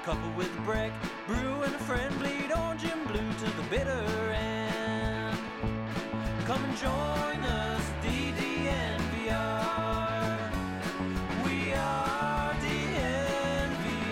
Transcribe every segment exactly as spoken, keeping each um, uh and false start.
couple with a brick, brew and a friend, bleed orange and blue to the bitter end. Come and join us, D D N V R. We are D N V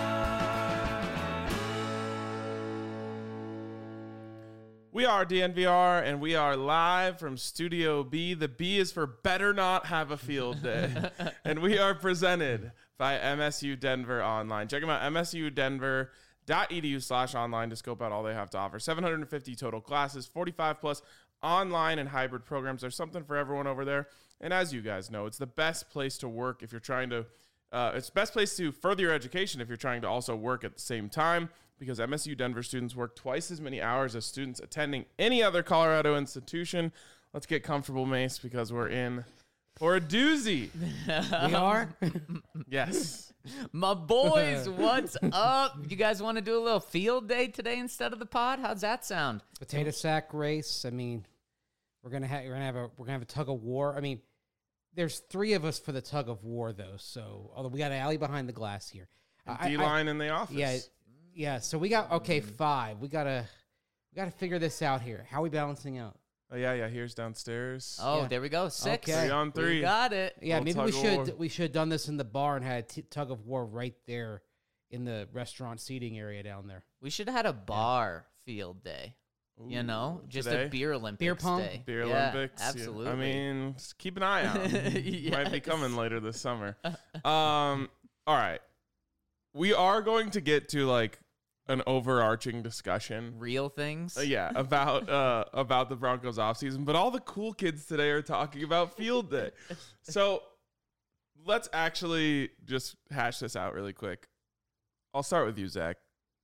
R. We are D N V R, and we are live from Studio B. The B is for Better Not Have a Field Day. And we are presented by M S U Denver Online. Check them out, M S U Denver dot E D U slash online to scope out all they have to offer. seven hundred fifty total classes, forty-five plus online and hybrid programs. There's something for everyone over there. And as you guys know, it's the best place to work if you're trying to, uh, it's the best place to further your education if you're trying to also work at the same time, because M S U Denver students work twice as many hours as students attending any other Colorado institution. Let's get comfortable, Mace, because we're in for a doozy. We are? Yes. My boys, what's up? You guys want to do a little field day today instead of the pod? How's that sound? Potato sack race. I mean, we're gonna have we're gonna have a we're gonna have a tug of war. I mean, there's three of us for the tug of war though. So although we got an alley behind the glass here, I- D-line I- in the office. Yeah, yeah. So we got okay five. We gotta we gotta figure this out here. How are we balancing out? Oh, yeah, yeah. Here's downstairs. Oh, Yeah. there we go. Six. Okay. Three on three. We got it. Yeah, Little maybe tug we of should war. we should have done this in the bar and had a t- tug of war right there in the restaurant seating area down there. We should have had a bar field day. You know, just today? a beer Olympics Beer pong? day. Beer Yeah, Olympics. yeah. Absolutely. I mean, just keep an eye out. Might be Yes. coming later this summer. Um, all right. We are going to get to like an overarching discussion. real things. Uh, yeah, about uh, about the Broncos offseason, but all the cool kids today are talking about field day. So let's actually just hash this out really quick. I'll start with you, Zach.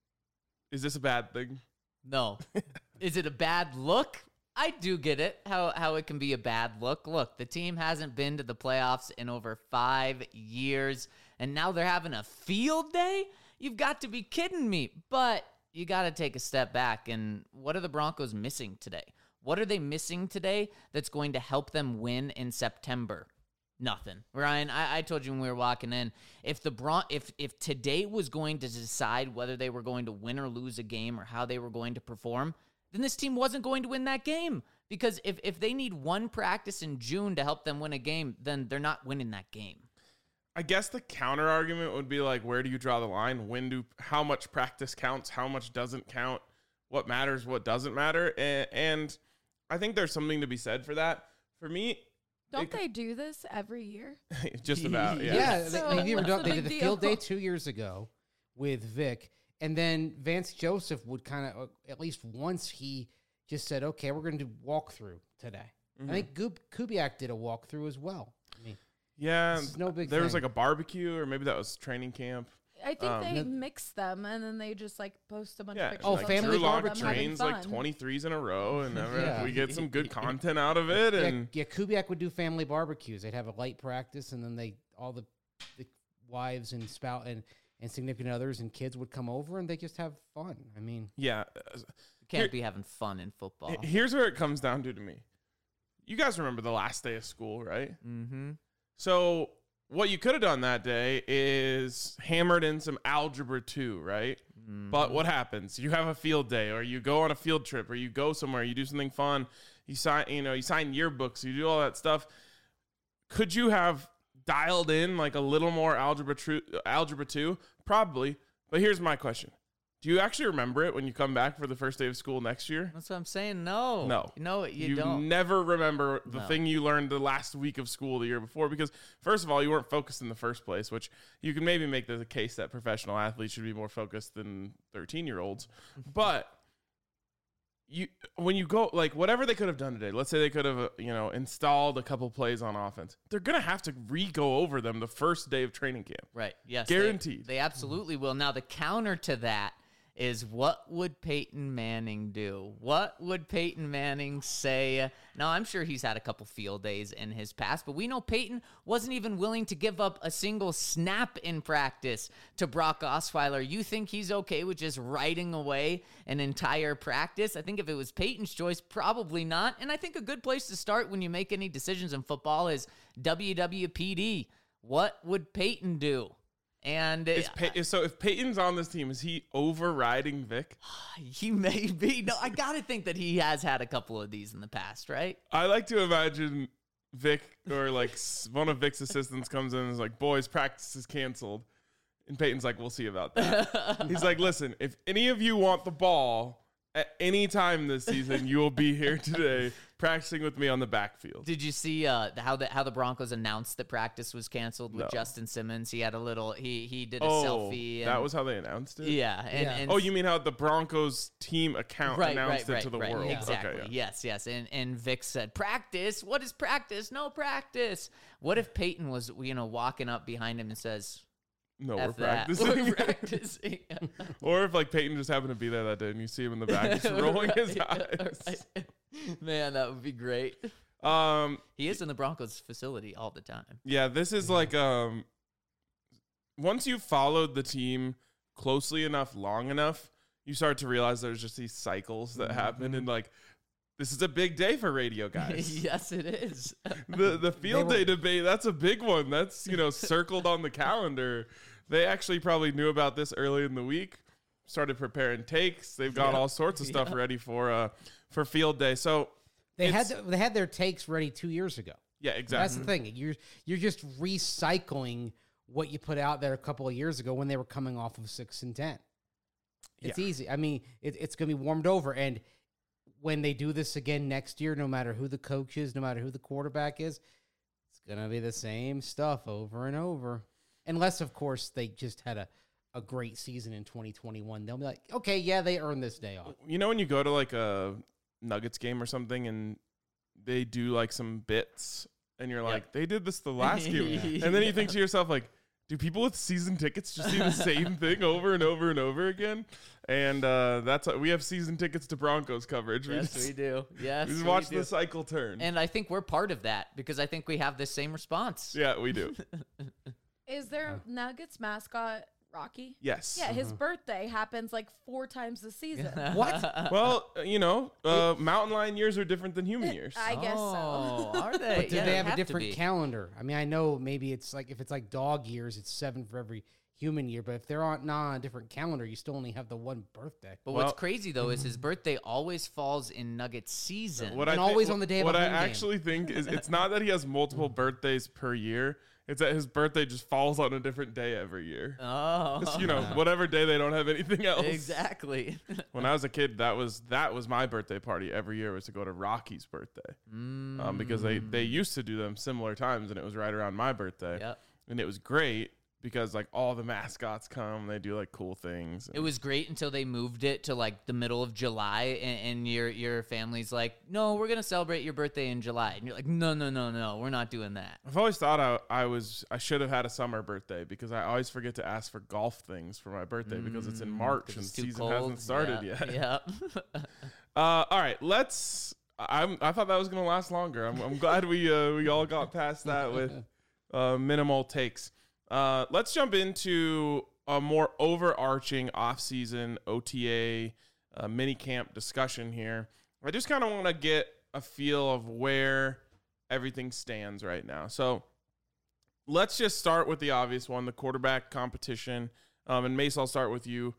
Is this a bad thing? No. Is it a bad look? I do get it, how how it can be a bad look. Look, the team hasn't been to the playoffs in over five years, and now they're having a field day? You've got to be kidding me. But you got to take a step back, and what are the Broncos missing today? What are they missing today that's going to help them win in September? Nothing. Ryan, I, I told you when we were walking in, if the Bron- if if today was going to decide whether they were going to win or lose a game or how they were going to perform, then this team wasn't going to win that game. Because if, if they need one practice in June to help them win a game, then they're not winning that game. I guess the counter argument would be like, where do you draw the line? When do how much practice counts? How much doesn't count? What matters? What doesn't matter? And, and I think there's something to be said for that. For me, Don't it- they do this every year? just about yeah. Yeah, So they, they, what's done- the they big did the deal? field day two years ago with Vic, and then Vance Joseph would kind of at least once he just said, "Okay, we're going to do walkthrough today." Mm-hmm. I think Gub- Kubiak did a walkthrough as well. I mean, Yeah, This is no big there was thing. like a barbecue, or maybe that was training camp. I think Um, they mix them and then they just like post a bunch Yeah, of pictures. Oh, of like family Drew them Lock barbecue. having trains like fun. twenty-threes in a row, and never, Yeah. we get some good content out of it. yeah, And yeah, Kubiak would do family barbecues. They'd have a light practice, and then they all the, the wives and spout and, and significant others and kids would come over, and they just have fun. I mean, yeah, You can't be having fun in football. here's where it comes down to to me. You guys remember the last day of school, right? Mm-hmm. So what you could have done that day is hammered in some algebra two, right? Mm-hmm. But what happens? You have a field day, or you go on a field trip, or you go somewhere, you do something fun, you sign, you know, you sign yearbooks, you do all that stuff. Could you have dialed in like a little more algebra tru- algebra two? Probably. But here's my question. Do you actually remember it when you come back for the first day of school next year? That's what I'm saying. No. No. No, you, don't. never remember the No. thing you learned the last week of school the year before, because first of all, you weren't focused in the first place, which you can maybe make the case that professional athletes should be more focused than thirteen year olds. But you, when you go, like whatever they could have done today, let's say they could have, uh, you know, installed a couple plays on offense. They're going to have to re-go over them the first day of training camp. Right. Yes. they- Guaranteed. They, absolutely will. Now, the counter to that is, what would Peyton Manning do? What would Peyton Manning say? Now, I'm sure he's had a couple field days in his past, but we know Peyton wasn't even willing to give up a single snap in practice to Brock Osweiler. You think he's okay with just writing away an entire practice? I think if it was Peyton's choice, probably not. And I think a good place to start when you make any decisions in football is W W P D. What would Peyton do? And Is uh, Pey- so if Peyton's on this team, is he overriding Vic? he may be. No, I got to think that he has had a couple of these in the past, right? I like to imagine Vic or like s- one of Vic's assistants comes in and is like, boys, practice is canceled. And Peyton's like, we'll see about that. He's like, listen, if any of you want the ball at any time this season, you will be here today practicing with me on the backfield. Did you see uh, how the how the Broncos announced that practice was canceled with No. Justin Simmons? He had a little. He he did a Oh, selfie. And, that was how they announced it? yeah. And, Yeah. and Oh, you mean how the Broncos team account right, announced right, it to the right, right. world? Exactly. Okay, yeah. Yes, yes. And and Vic said, "Practice? What is practice? No practice." What if Peyton was, you know, walking up behind him and says, No, F we're that. practicing. We're practicing. Or if like Peyton just happened to be there that day and you see him in the back just rolling his Right, eyes. right. Man, that would be great. Um, He is in the Broncos facility all the time. yeah, this is like um, once you've followed the team closely enough, long enough, you start to realize there's just these cycles that happen, and like this is a big day for radio guys. Yes, it is. the the field were- day debate, that's a big one. That's, you know, circled on the calendar. They actually probably knew about this early in the week, started preparing takes. They've got Yeah. all sorts of stuff Yeah. ready for uh for field day. So They had it's- they had their takes ready two years ago. yeah, That's exactly. the thing. You're you're just recycling what you put out there a couple of years ago when they were coming off of six and ten. It's Yeah. easy. I mean, it, it's going to be warmed over, and when they do this again next year, no matter who the coach is, no matter who the quarterback is, it's going to be the same stuff over and over. Unless, of course, they just had a, a great season in twenty twenty-one. They'll be like, okay, yeah, they earned this day off. You know, when you go to like a Nuggets game or something and they do like some bits and you're like, they did this the last game. And then you think to yourself, like, do people with season tickets just see the same thing over and over and over again? And uh, that's we have season tickets to Broncos coverage. We Yes, just, we do. Yes, we just we watch do. the cycle turn. And I think we're part of that because I think we have the same response. yeah, we do. Is their Nuggets mascot Rocky? Yes. Yeah, his birthday happens like four times this season. What? Well, uh, you know, uh, mountain lion years are different than human years. I guess Oh, so. are they? Do Yeah, they have a to different be. calendar? I mean, I know maybe it's like if it's like dog years, it's seven for every human year. But if they're on not on a different calendar, you still only have the one birthday. But Well- what's crazy though is his birthday always falls in Nuggets season. What And I thi- always on the day of What a I home game. actually think is it's not that he has multiple birthdays per year. It's that his birthday just falls on a different day every year. Oh, Just, you know, whatever day they don't have anything else. exactly. When I was a kid, that was that was my birthday party every year was to go to Rocky's birthday, Mm. um, because they they used to do them similar times, and it was right around my birthday, Yep. and it was great because like all the mascots come, they do like cool things. It was great until they moved it to like the middle of July, and, and your your family's like, "No, we're gonna celebrate your birthday in July," and you're like, "No, no, no, no, we're not doing that." I've always thought I, I was I should have had a summer birthday because I always forget to ask for golf things for my birthday because it's in March 'Cause and it's too season cold. hasn't started Yeah, yet. Yeah. Uh, all right, let's. I'm. I thought that was gonna last longer. I'm. I'm glad we uh, we all got past that with uh, minimal takes. Uh, let's jump into a more overarching off-season O T A uh, mini camp discussion here. I just kind of want to get a feel of where everything stands right now. So let's just start with the obvious one, the quarterback competition. Um, and Mace, I'll start with you.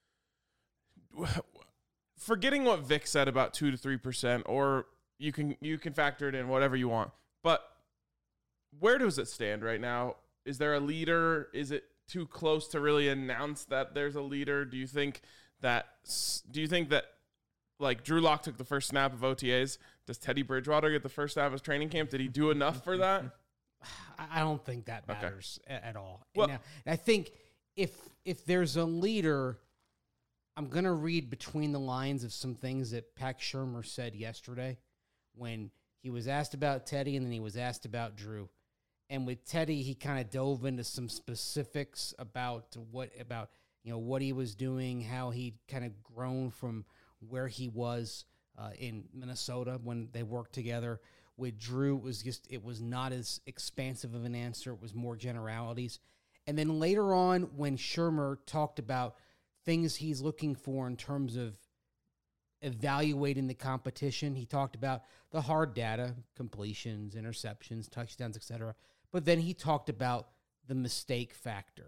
Forgetting what Vic said about two to three percent, or you can you can factor it in whatever you want. But where does it stand right now? Is there a leader? Is it too close to really announce that there's a leader? Do you think that? Do you think that like Drew Lock took the first snap of O T As? Does Teddy Bridgewater get the first snap of training camp? Did he do enough for that? I I don't think that Okay. matters a- at all. Well- Now, I think if if there's a leader, I'm gonna read between the lines of some things that Pat Shermer said yesterday when he was asked about Teddy and then he was asked about Drew. And with Teddy, he kind of dove into some specifics about what about you know what he was doing, how he'd kind of grown from where he was uh, in Minnesota when they worked together. With Drew, it was just it was not as expansive of an answer. It was more generalities. And then later on, when Shermer talked about things he's looking for in terms of evaluating the competition, he talked about the hard data, completions, interceptions, touchdowns, et cetera. But then he talked about the mistake factor.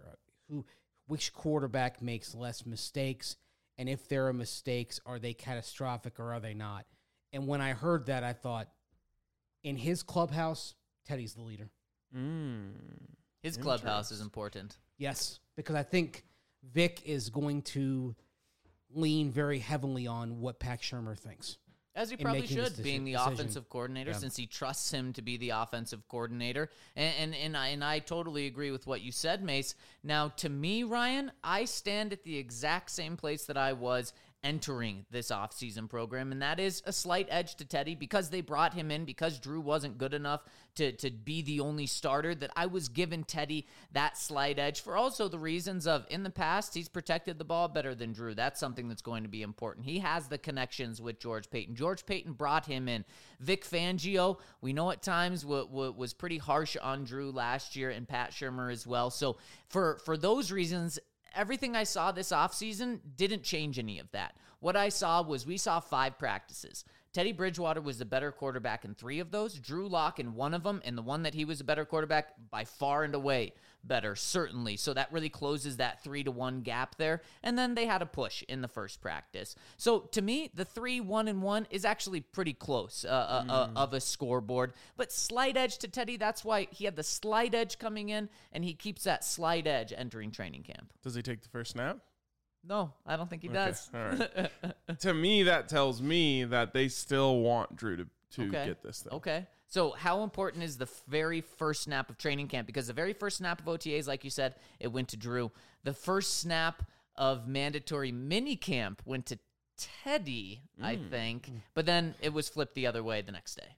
who which quarterback makes less mistakes, and if there are mistakes, are they catastrophic or are they not? And when I heard that, I thought, in his clubhouse, Teddy's the leader. Mm. His clubhouse is important. Yes, because I think Vic is going to lean very heavily on what Pat Shurmur thinks. As he in probably making this should, being the decision. offensive coordinator, Yeah. since he trusts him to be the offensive coordinator. And, and and I and I totally agree with what you said, Mace. Now, to me, Ryan, I stand at the exact same place that I was entering this offseason program, and that is a slight edge to Teddy because they brought him in, because Drew wasn't good enough to, to be the only starter, that I was giving Teddy that slight edge for also the reasons of, in the past, he's protected the ball better than Drew. That's something that's going to be important. He has the connections with George Paton. George Paton brought him in. Vic Fangio, we know at times w- w- was pretty harsh on Drew last year, and Pat Shurmur as well. So for, for those reasons, everything I saw this offseason didn't change any of that. What I saw was we saw five practices. Teddy Bridgewater was the better quarterback in three of those. Drew Lock in one of them, and the one that he was a better quarterback by far and away better, certainly. So that really closes that three to one gap there. And then they had a push in the first practice. So to me, the three, one, and one is actually pretty close uh, uh, Mm. uh, of a scoreboard. But slight edge to Teddy, that's why he had the slight edge coming in, and he keeps that slight edge entering training camp. Does he take the first snap? No, I don't think he Okay, does. all right. To me, that tells me that they still want Drew to, to Okay. get this thing. Okay. So how important is the very first snap of training camp? Because the very first snap of O T As, like you said, it went to Drew. The first snap of mandatory mini camp went to Teddy, I Mm. think. But then it was flipped the other way the next day.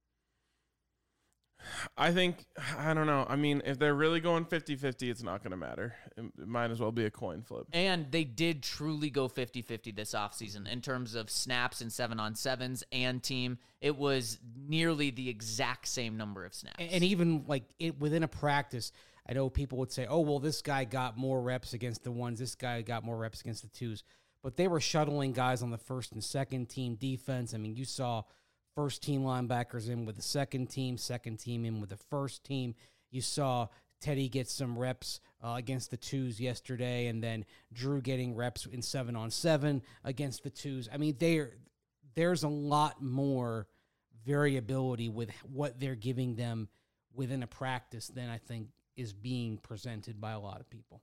I think, I don't know. I mean, if they're really going fifty-fifty, it's not going to matter. It, it might as well be a coin flip. And they did truly go fifty-fifty this offseason in terms of snaps and seven-on-sevens and team. It was nearly the exact same number of snaps. And, and even like it within a practice, I know people would say, "Oh, well, this guy got more reps against the ones. This guy got more reps against the twos." But they were shuttling guys on the first and second team defense. I mean, you saw first team linebackers in with the second team, second team in with the first team. You saw Teddy get some reps uh, against the twos yesterday, and then Drew getting reps in seven on seven against the twos. I mean, there there's a lot more variability with what they're giving them within a practice than I think is being presented by a lot of people.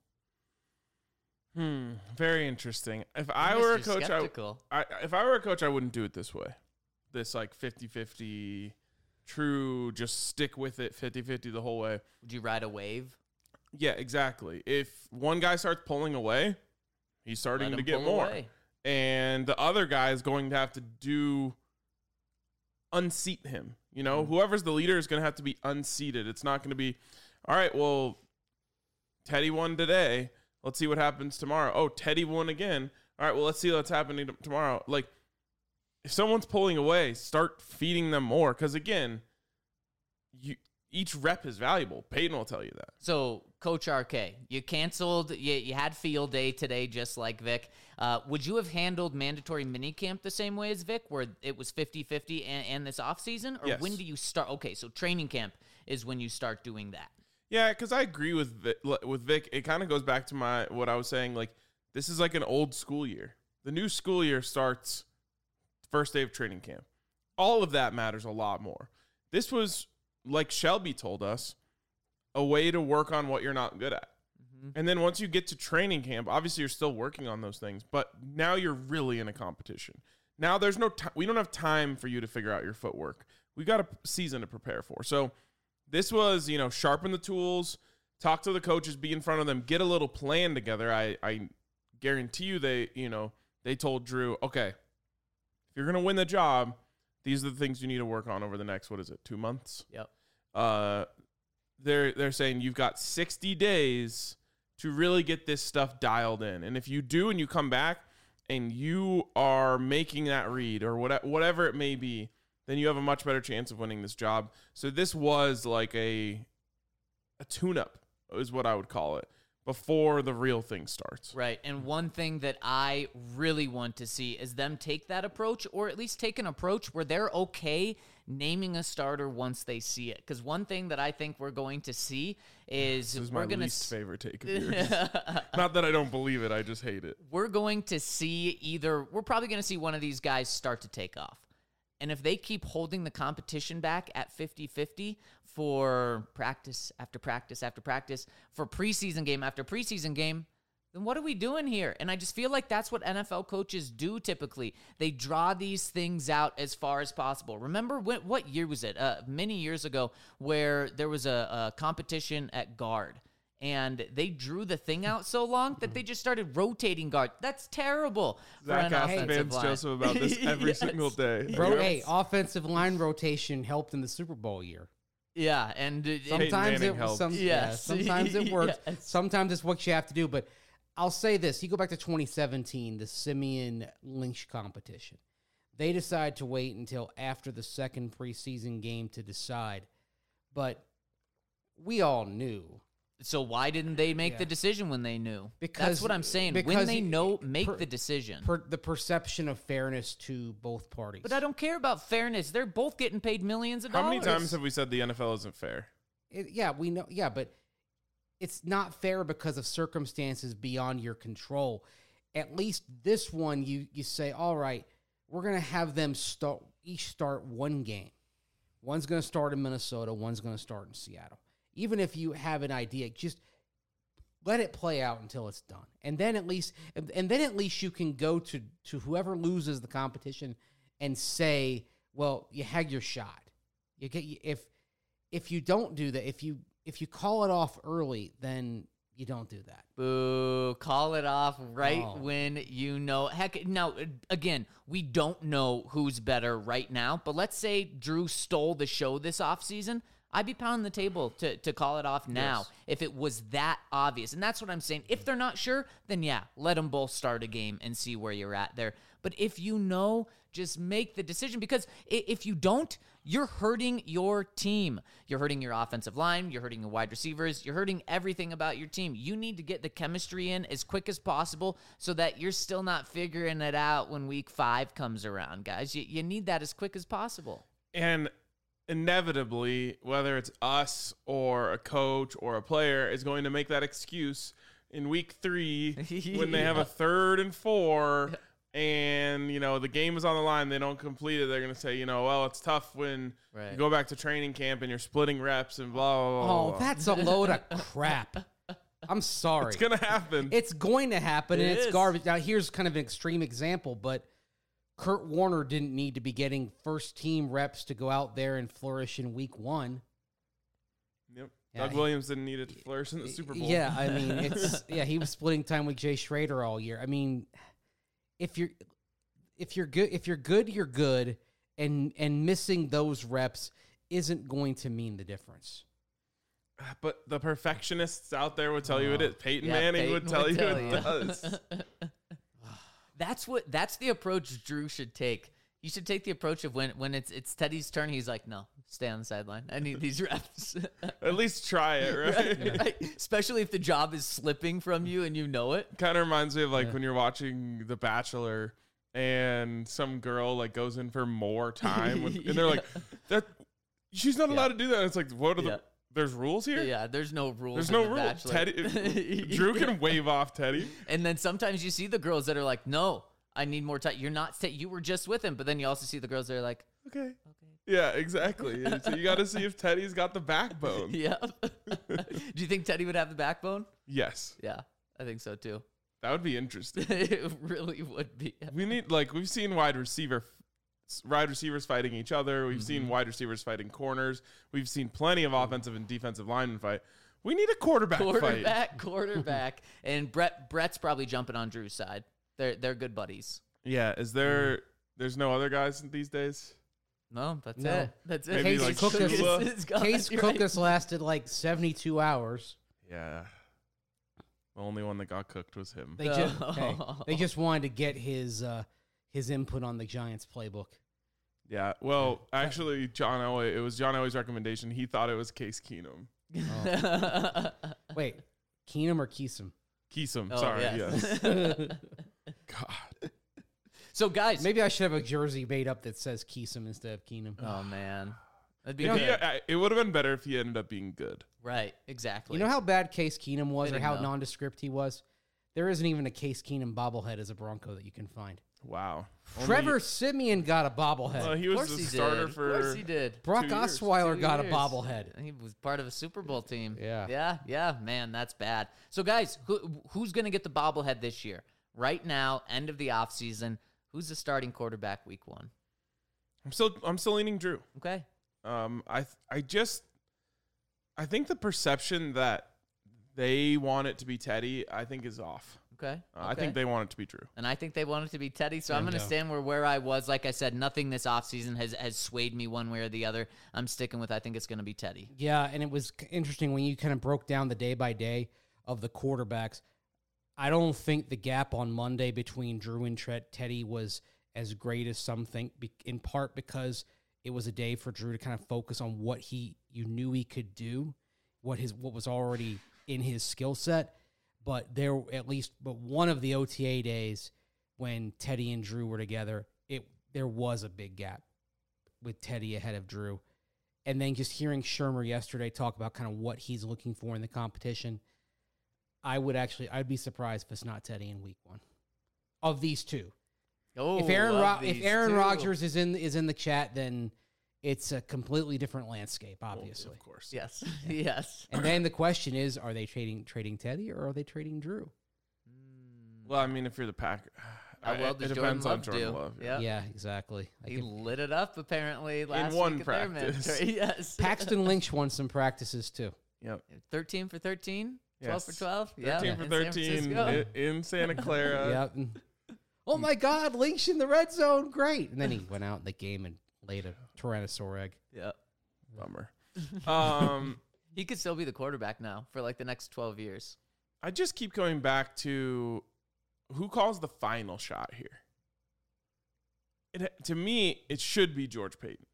Hmm. Very interesting. If I Mister were a coach, I, Skeptical. I if I were a coach, I wouldn't do it this way. This like fifty-fifty true, just stick with it fifty-fifty the whole way. Would you ride a wave? Yeah, exactly. If one guy starts pulling away, he's starting Let to him get pull more. away. And the other guy is going to have to do unseat him. You know, whoever's the leader is going to have to be unseated. It's not going to be, all right, well, Teddy won today. Let's see what happens tomorrow. Oh, Teddy won again. All right, well, let's see what's happening t- tomorrow. Like, if someone's pulling away, start feeding them more. Because, again, you each rep is valuable. Peyton will tell you that. So, Coach R K, you canceled, you, you had field day today, just like Vic. Uh, would you have handled mandatory minicamp the same way as Vic, where it was fifty-fifty and, and this offseason? Or Yes. when do you start? Okay, so training camp is when you start doing that. Yeah, because I agree with Vic, with Vic. It kind of goes back to my what I was saying. Like, this is like an old school year. The new school year starts first day of training camp. All of that matters a lot more. This was, like Shelby told us, a way to work on what you're not good at. Mm-hmm. And then once you get to training camp, obviously you're still working on those things, but now you're really in a competition. Now there's no time. We don't have time for you to figure out your footwork. We got a season to prepare for. So this was, you know, sharpen the tools, talk to the coaches, be in front of them, get a little plan together. I, I guarantee you they, you know, they told Drew, okay, if you're going to win the job, these are the things you need to work on over the next, what is it, two months? Yep. Uh, they're they're saying you've got sixty days to really get this stuff dialed in. And if you do and you come back and you are making that read or whatever, whatever it may be, then you have a much better chance of winning this job. So this was like a a tune-up is what I would call it before the real thing starts. Right. And one thing that I really want to see is them take that approach, or at least take an approach where they're okay naming a starter once they see it. Because one thing that I think we're going to see is This is we're my going least to favorite take of yours. Not that I don't believe it, I just hate it. we're going to see either we're probably going to see one of these guys start to take off. And if they keep holding the competition back at fifty-fifty for practice after practice after practice, for preseason game after preseason game, then what are we doing here? And I just feel like that's what N F L coaches do typically. They draw these things out as far as possible. Remember when, what year was it? Uh, many years ago where there was a, a competition at guard. And they drew the thing out so long that they just started rotating guard. That's terrible for Zach an asks offensive Vance line. Joseph about this every Yes. single day. Bro, hey, offensive line rotation helped in the Super Bowl year. Yeah, and uh, Sometimes Manning it helped. some, yeah, Yes. sometimes it works. Yes. Sometimes it's what you have to do. But I'll say this: you go back to twenty seventeen, the Simeon Lynch competition. They decide to wait until after the second preseason game to decide, but we all knew. so why didn't they make Yeah. the decision when they knew? Because- That's what I'm saying. When because they you- know, make per- the decision. Per the perception of fairness to both parties. But I don't care about fairness. They're both getting paid millions of How dollars. many times have we said the N F L isn't fair? It- yeah, we know. Yeah, but it's not fair because of circumstances beyond your control. At least this one, you you say, all right, we're gonna have them start each start one game. One's gonna start in Minnesota. One's gonna start in Seattle. Even if you have an idea, just let it play out until it's done, and then at least and and then at least you can go to to whoever loses the competition and say, well, you had your shot. You get if if you don't do that, if you if you call it off early, then you don't do that. Boo. Call it off right Oh. when you know. Heck, now, again, we don't know who's better right now, but let's say Drew stole the show this offseason. I'd be pounding the table to, to call it off now Yes. if it was that obvious. And that's what I'm saying. If they're not sure, then yeah, let them both start a game and see where you're at there. But if you know, just make the decision, because i- if you don't, you're hurting your team. You're hurting your offensive line. You're hurting your wide receivers. You're hurting everything about your team. You need to get the chemistry in as quick as possible so that you're still not figuring it out when week five comes around, guys. You, you need that as quick as possible. And inevitably, whether it's us or a coach or a player, is going to make that excuse in week three when they have Yeah. a third and four and, you know, the game is on the line, they don't complete it. They're going to say, you know, well, it's tough when Right. you go back to training camp and you're splitting reps and blah, blah, blah. Oh, blah. that's a load of crap. I'm sorry. It's going to happen. It's going to happen, and It it's is. garbage. Now, here's kind of an extreme example, but Kurt Warner didn't need to be getting first team reps to go out there and flourish in week one. Yep. Yeah, Doug he- Williams didn't need it to flourish in the Super Bowl. Yeah, I mean, it's yeah, he was splitting time with Jay Schrader all year. I mean, if you're if you're good, if you're good, you're good, and and missing those reps isn't going to mean the difference. But the perfectionists out there would tell you it is. Peyton Yeah, Manning Peyton would tell you tell it you. does. That's what. That's the approach Drew should take. You should take the approach of when when it's it's Teddy's turn. He's like, no, stay on the sideline. I need these reps. At least try it, right? Right? Especially if the job is slipping from you and you know it. Kind of reminds me of like when you're watching The Bachelor and some girl like goes in for more time with, and they're like, that she's not allowed to do that. And it's like, what are Yeah. the there's rules here? Yeah, there's no rules. There's in no The rule. Bachelor. Teddy Drew can wave off Teddy. And then sometimes you see the girls that are like, no, I need more time. You're not. Sta- you were just with him, but then you also see the girls that are like, Okay. Yeah, exactly. And so you got to see if Teddy's got the backbone. yeah. Do you think Teddy would have the backbone? Yes, Yeah, I think so too. that would be interesting. It really would be. We need like we've seen wide receiver wide receivers fighting each other. We've seen wide receivers fighting corners. We've seen plenty of offensive and defensive linemen fight. We need a quarterback, fight. Quarterback, quarterback, and Brett. Brett's probably jumping on Drew's side. They're they're good buddies. Yeah, is there there's no other guys these days? No, that's No. it. That's it. Maybe Case like Cook is- Shula? is gone. Case You're right. Cookus lasted like seventy-two hours. Yeah. The only one that got cooked was him. They just No. hey, they just wanted to get his uh, his input on the Giants playbook. Yeah. Well, actually, John Elway, it was John Elway's recommendation. He thought it was Case Keenum. Wait, Keenum or Keesum? Keesum, Oh, sorry. yeah. Yes. God. So, guys. Maybe I should have a jersey made up that says Keesum instead of Keenum. Oh, man. That'd be If he- good. I- it would have been better if he ended up being good. Right, exactly. You know how bad Case Keenum was, I or didn't how know. nondescript he was? There isn't even a Case Keenum bobblehead as a Bronco that you can find. Wow. Trevor Simeon got a bobblehead. Well, he Of was course the he starter did. Of for. course he did. Brock two years. Osweiler Two got a years. bobblehead. He was part of a Super Bowl team. Yeah. Yeah, yeah, man, that's bad. So, guys, who, who's going to get the bobblehead this year? Right now, end of the offseason, who's the starting quarterback week one? I'm still. I'm still leaning Drew. Okay. Um, I I just I think the perception that they want it to be Teddy, I think is off. Okay. Uh, I okay. think they want it to be Drew. And I think they want it to be Teddy, so I'm going to Bingo. stand where, where I was. Like I said, nothing this offseason has, has swayed me one way or the other. I'm sticking with I think it's going to be Teddy. Yeah, and it was c- interesting when you kind of broke down the day by day of the quarterbacks. I don't think the gap on Monday between Drew and Tre- Teddy was as great as some think, be- in part because it was a day for Drew to kind of focus on what he you knew he could do, what his what was already in his skill set. But there, at least, but one of the O T A days when Teddy and Drew were together, it there was a big gap with Teddy ahead of Drew. And then just hearing Shermer yesterday talk about kind of what he's looking for in the competition, I would actually, I'd be surprised if it's not Teddy in week one of these two. Oh, if Aaron love Ro- if these Aaron two. Rodgers is in is in the chat, then it's a completely different landscape, obviously. Of course. Yes, yes. And then the question is, are they trading trading Teddy or are they trading Drew? Well, I mean, if you're the Pack, How well it does depends Jordan on Love Jordan do? Love. Yep. Yeah, exactly. I He could- lit it up apparently last one week at their practice. mandatory. Yes. Paxton Lynch won some practices too. Yep. thirteen for thirteen? twelve Yes. for twelve? thirteen yeah. for in San thirteen Francisco. i- in Santa Clara. Yep. and- Oh my God, Lynch in the red zone, great! And then he went out in the game and laid a Tyrannosaur egg. Yep. Bummer. Um, He could still be the quarterback now for like the next twelve years. I just keep going back to who calls the final shot here. It, to me, it should be George Payton.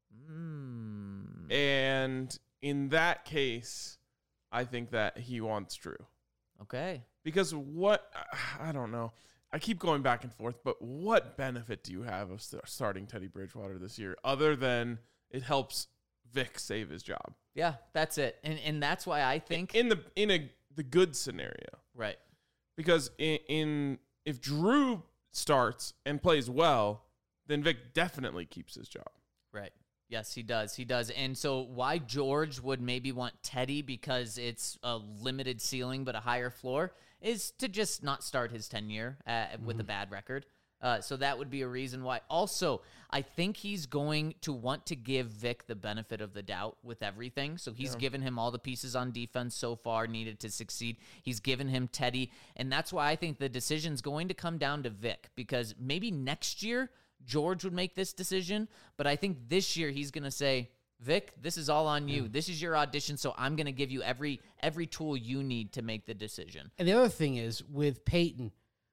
Mm. And in that case, I think that he wants Drew. Okay. Because what, I don't know. I keep going back and forth, but what benefit do you have of st- starting Teddy Bridgewater this year other than it helps Vic save his job? Yeah, that's it. And and that's why I think In the in a the good scenario. right. Because in, in if Drew starts and plays well, then Vic definitely keeps his job. Right. Yes, he does. He does. And so why George would maybe want Teddy because it's a limited ceiling but a higher floor is to just not start his tenure uh, with a bad record. Uh, so that would be a reason why. Also, I think he's going to want to give Vic the benefit of the doubt with everything. So he's given him all the pieces on defense so far needed to succeed. He's given him Teddy. And that's why I think the decision's going to come down to Vic because maybe next year George would make this decision. But I think this year he's going to say, Vic, this is all on you. This is your audition. So I'm going to give you every every tool you need to make the decision. And the other thing is with Peyton,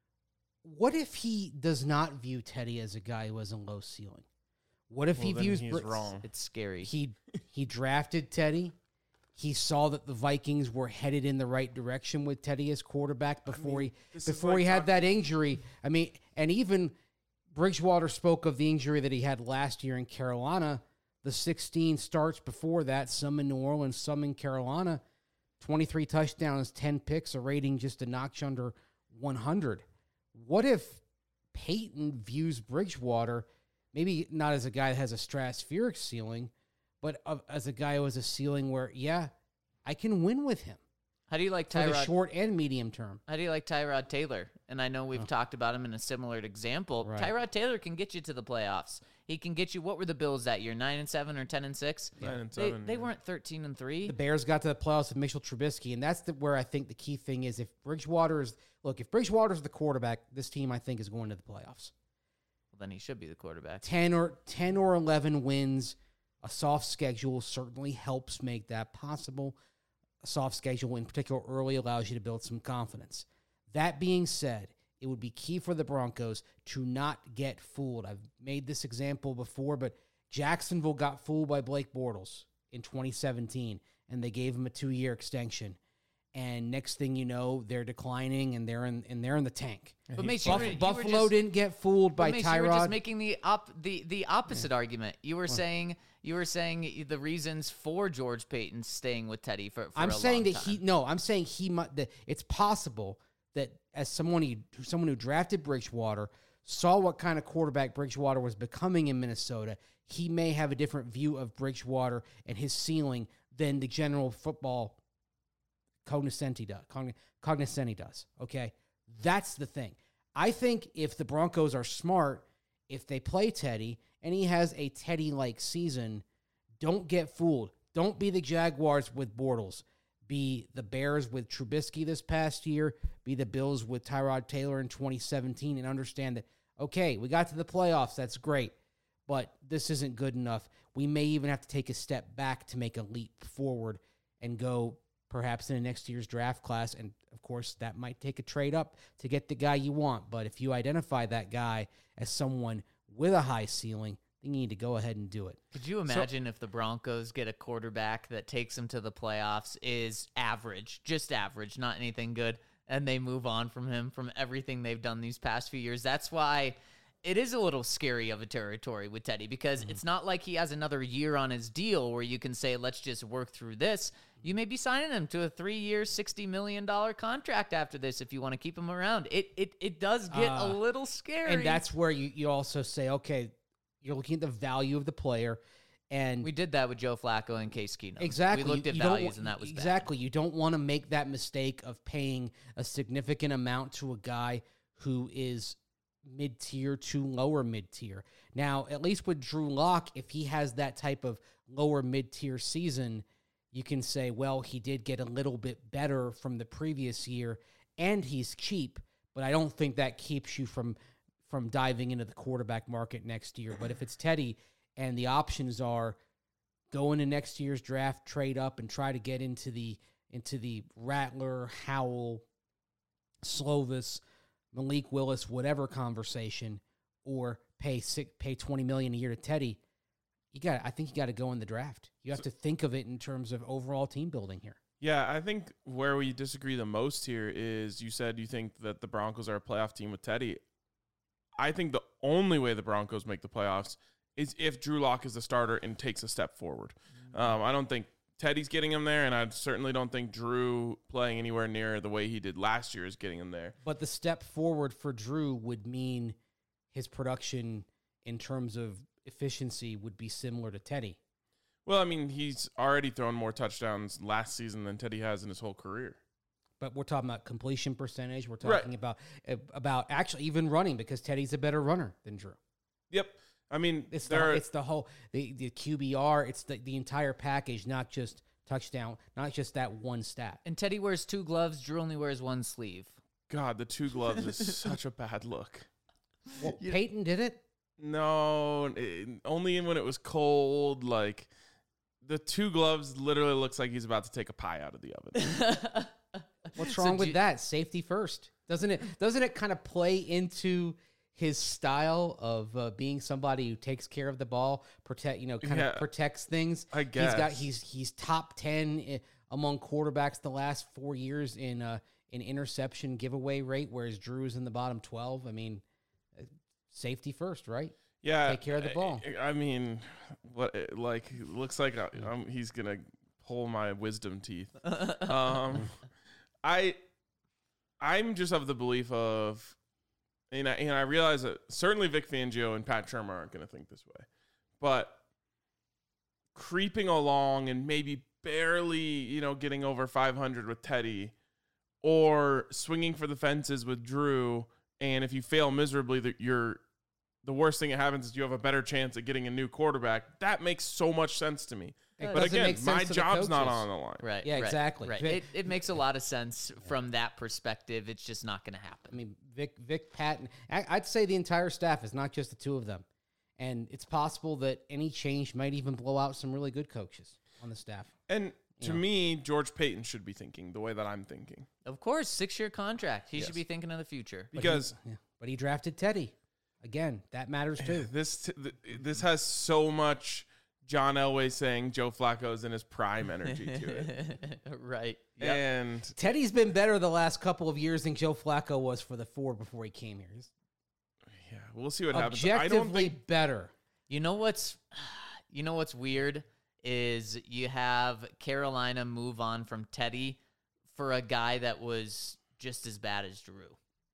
what if he does not view Teddy as a guy who has a low ceiling? What if he Well, then views he's Br- wrong. It's scary. He he drafted Teddy. He saw that the Vikings were headed in the right direction with Teddy as quarterback before mean, he this is before like he had talk- that injury. I mean, and even Bridgewater spoke of the injury that he had last year in Carolina. The sixteen starts before that, some in New Orleans, some in Carolina. twenty-three touchdowns, ten picks, a rating just a notch under one hundred. What if Peyton views Bridgewater maybe not as a guy that has a stratospheric ceiling, but of, as a guy who has a ceiling where, yeah, I can win with him How do you like for the Tyrod? short and medium term. How do you like Tyrod Taylor? And I know we've talked about him in a similar example. Right. Tyrod Taylor can get you to the playoffs. He can get you. What were the Bills that year? Nine and seven or ten and six? Nine and They, seven. they yeah. weren't thirteen and three. The Bears got to the playoffs with Mitchell Trubisky, and that's the, where I think the key thing is if Bridgewater is, look, if Bridgewater is the quarterback, this team, I think, is going to the playoffs. Well, then he should be the quarterback. ten or ten or eleven wins, a soft schedule certainly helps make that possible. A soft schedule in particular early allows you to build some confidence. That being said, it would be key for the Broncos to not get fooled. I've made this example before, but Jacksonville got fooled by Blake Bortles in twenty seventeen, and they gave him a two-year extension. and next thing you know, they're declining and they're in and they're in the tank. But Mace, you Buff- were- you were Buffalo just- didn't get fooled by But Mace, you were Tyrod. just making the op- the the opposite argument. You were saying you were saying the reasons for George Payton staying with Teddy for. for I'm a saying long that time. he no, I'm saying he might. That it's possible that as someone he, someone who drafted Bridgewater, saw what kind of quarterback Bridgewater was becoming in Minnesota, he may have a different view of Bridgewater and his ceiling than the general football cognoscenti does. Cogn- cognoscenti does. Okay, that's the thing. I think if the Broncos are smart, if they play Teddy and he has a Teddy-like season, don't get fooled. Don't be the Jaguars with Bortles. Be the Bears with Trubisky this past year. Be the Bills with Tyrod Taylor in twenty seventeen, and understand that, okay, we got to the playoffs. That's great, but this isn't good enough. We may even have to take a step back to make a leap forward and go perhaps in the next year's draft class. And, of course, that might take a trade up to get the guy you want. But if you identify that guy as someone with a high ceiling, then you need to go ahead and do it. Could you imagine if the Broncos get a quarterback that takes them to the playoffs, is average, just average, not anything good, and they move on from him from everything they've done these past few years? That's why it is a little scary of a territory with Teddy, because it's not like he has another year on his deal where you can say, let's just work through this. You may be signing him to a three-year, sixty million dollars contract after this if you want to keep him around. It it it does get a Uh, little scary. And that's where you, you also say, okay, you're looking at the value of the player. And we did that with Joe Flacco and Case Keenum. exactly. We looked you- at you don't values, wa- and that was bad. exactly. You don't want to make that mistake of paying a significant amount to a guy who is mid-tier to lower mid-tier. Now, at least with Drew Lock, if he has that type of lower mid-tier season, you can say, well, he did get a little bit better from the previous year, and he's cheap. But I don't think that keeps you from from diving into the quarterback market next year. But if it's Teddy and the options are go into next year's draft, trade up, and try to get into the into the Rattler, Howell, Slovis, Malik Willis, whatever conversation, or pay six, pay twenty million a year to Teddy, you got. I think you got to go in the draft. You have to think of it in terms of overall team building here. Yeah, I think where we disagree the most here is you said you think that the Broncos are a playoff team with Teddy. I think the only way the Broncos make the playoffs is if Drew Lock is the starter and takes a step forward. Um, I don't think Teddy's getting him there, and I certainly don't think Drew playing anywhere near the way he did last year is getting him there. But the step forward for Drew would mean his production in terms of efficiency would be similar to Teddy. Well, I mean, he's already thrown more touchdowns last season than Teddy has in his whole career. But we're talking about completion percentage. We're Right. talking about about actually even running, because Teddy's a better runner than Drew. Yep. I mean, It's the, there are, it's the whole the, the Q B R. It's the, the entire package, not just touchdown, not just that one stat. And Teddy wears two gloves. Drew only wears one sleeve. God, the two gloves is such a bad look. Well, Peyton did it. No, it, only when it was cold. Like, the two gloves literally looks like he's about to take a pie out of the oven. What's So wrong do with you- that? Safety first, doesn't it? Doesn't it kind of play into his style of uh, being somebody who takes care of the ball, protect, you know, kind Yeah. of protects things. I He's got guess. he's he's top ten i- among quarterbacks the last four years in uh in interception giveaway rate, whereas Drew's in the bottom twelve. I mean, uh, safety first, right? Yeah, Take care of the ball. I, I mean, what? it- Like, it looks like I, um, he's gonna pull my wisdom teeth. Um, I, I'm just of the belief of, and I, and I realize that certainly Vic Fangio and Pat Shermer aren't gonna think this way, but creeping along and maybe barely, you know, getting over five hundred with Teddy, or swinging for the fences with Drew, and if you fail miserably, that you're the worst thing that happens is you have a better chance at getting a new quarterback. That makes so much sense to me. It But doesn't again, make sense my to the job's not coaches. on the line. Right. Yeah, right, exactly. Right. Vic- It, it makes a lot of sense from that perspective. It's just not going to happen. I mean, Vic, Vic, Patton. I, I'd say the entire staff is not just the two of them, and it's possible that any change might even blow out some really good coaches on the staff. And to Yeah. me, George Payton should be thinking the way that I'm thinking. Of course, six-year contract. He Yes. should be thinking of the future. But Because he, yeah, but he drafted Teddy. Again, that matters too. this t- th- this has so much John Elway saying Joe Flacco's in his prime energy to it. Right. Yep. And Teddy's been better the last couple of years than Joe Flacco was for the four before he came here. He's yeah, we'll see what happens. I objectively don't think better. You know what's, you know what's weird is you have Carolina move on from Teddy for a guy that was just as bad as Drew.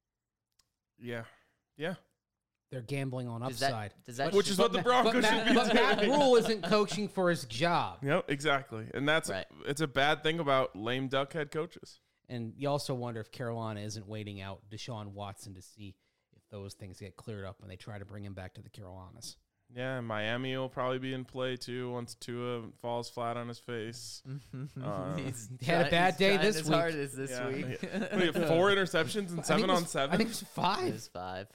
Yeah. Yeah. They're gambling on Does that- upside. does that Which sh- is what the Broncos but should Matt, be but Matt doing. Rule isn't coaching for his job. Yep, exactly. And that's Right. it's a bad thing about lame duck head coaches. And you also wonder if Carolina isn't waiting out Deshaun Watson to see if those things get cleared up when they try to bring him back to the Carolinas. Yeah, and Miami will probably be in play too once Tua falls flat on his face. Uh, He's He had a try- bad he's day trying this as week. hard as this Yeah. week. What do you have, four interceptions and I think seven it was- on seven? I think it was It five. was five.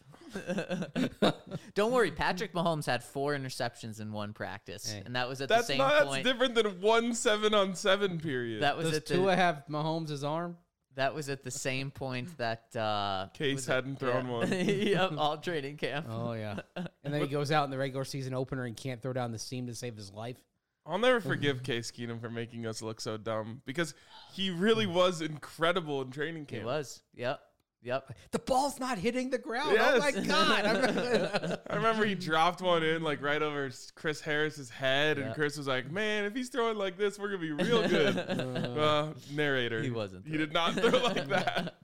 Don't worry, Patrick Mahomes had four interceptions in one practice, Hey. and that was at That's the same not that's point. different than one seven on seven period. That was Does at the Tua have Mahomes' arm? that was at the same point that uh, Case was it- hadn't thrown yeah. one. Yep, all training camp. Oh, yeah. And then he goes out in the regular season opener and can't throw down the seam to save his life. I'll never forgive Case Keenum for making us look so dumb because he really was incredible in training He camp. was. Yep. Yep. The ball's not hitting the ground. Yes. Oh, my God. I'm- I remember he dropped one in like right over Chris Harris's head, and Yeah. Chris was like, "Man, if he's throwing like this, we're gonna be real good." uh, narrator, He wasn't He did not throw like that.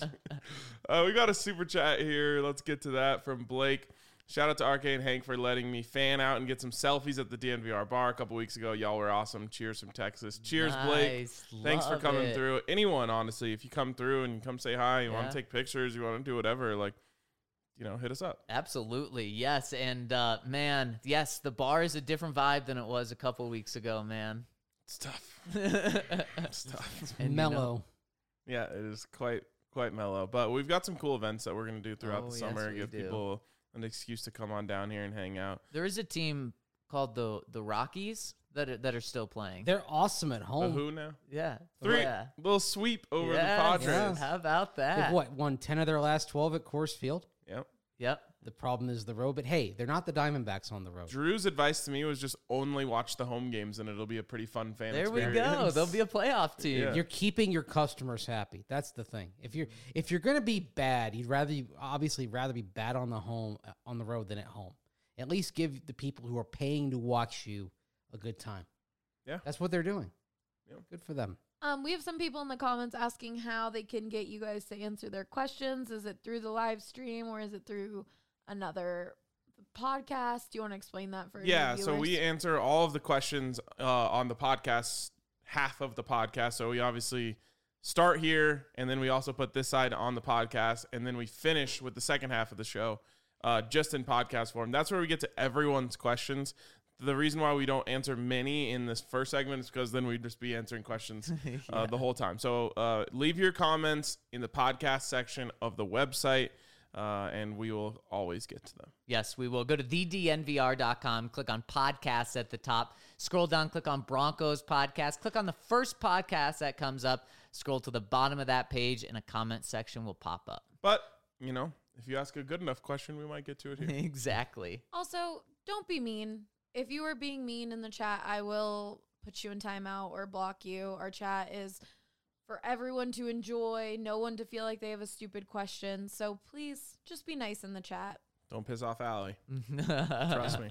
Uh, we got a super chat here. Let's get to that from Blake. Shout out to R K and Hank for letting me fan out and get some selfies at the D N V R bar a couple weeks ago. Y'all were awesome. Cheers from Texas. Cheers, Blake. Nice. Thanks for Love coming it. through. Anyone, honestly, if you come through and come say hi, you want Yeah. to take pictures, you want to do whatever, like, you know, hit us up. Absolutely. Yes. And uh, man, yes, the bar is a different vibe than it was a couple weeks ago, man. It's tough. and, It's tough. you know- Mellow. Yeah, it is quite quite mellow. But we've got some cool events that we're gonna do throughout Oh, the yes, summer. we Give do. people an excuse to come on down here and hang out. there is a team called the the Rockies that are, that are still playing. They're awesome at The home. who now? yeah. Three Yeah. little sweep over Yes. the Padres. Yeah. How about that? They've, what, won ten of their last twelve at Coors Field? Yep. Yep. The problem is the road. But, hey, they're not the Diamondbacks on the road. Drew's advice to me was just only watch the home games, and it'll be a pretty fun fan. There we go. experience. There'll be a playoff team. Yeah. You're keeping your customers happy. That's the thing. If you're if you're gonna be bad, you'd rather you obviously rather be bad on the home on the road than at home. At least give the people who are paying to watch you a good time. Yeah. That's what they're doing. Yeah. Good for them. Um, we have some people in the comments asking how they can get you guys to answer their questions. Is it through the live stream or is it through another podcast? Do you want to explain that for Yeah, your so we viewers? answer all of the questions uh, on the podcast, half of the podcast. So we obviously start here, and then we also put this side on the podcast, and then we finish with the second half of the show uh, just in podcast form. That's where we get to everyone's questions. The reason why we don't answer many in this first segment is because then we'd just be answering questions uh, the whole time. So uh, leave your comments in the podcast section of the website, uh, and we will always get to them. Yes, we will. Go to the d n v r dot com, click on podcasts at the top, scroll down, click on Broncos podcast, click on the first podcast that comes up, scroll to the bottom of that page, and a comment section will pop up. But, you know, if you ask a good enough question, we might get to it here. Exactly. Also, don't be mean. If you are being mean in the chat, I will put you in timeout or block you. Our chat is for everyone to enjoy, no one to feel like they have a stupid question. So please just be nice in the chat. Don't piss off Allie. Trust me.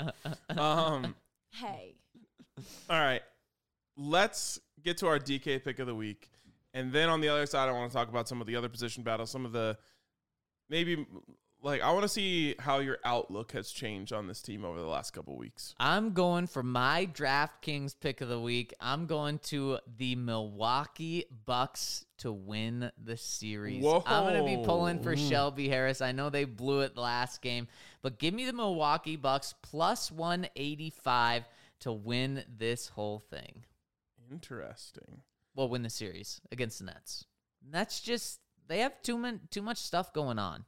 Um, Hey. all right. Let's get to our D K pick of the week. And then on the other side, I want to talk about some of the other position battles, some of the maybe like I want to see how your outlook has changed on this team over the last couple weeks. I'm going for my DraftKings pick of the week. I'm going to the Milwaukee Bucks to win the series. Whoa. I'm going to be pulling for Mm. Shelby Harris. I know they blew it last game, but give me the Milwaukee Bucks plus one eighty-five to win this whole thing. Interesting. Well, win the series against the Nets. That's just, they have too, man, too much stuff going on.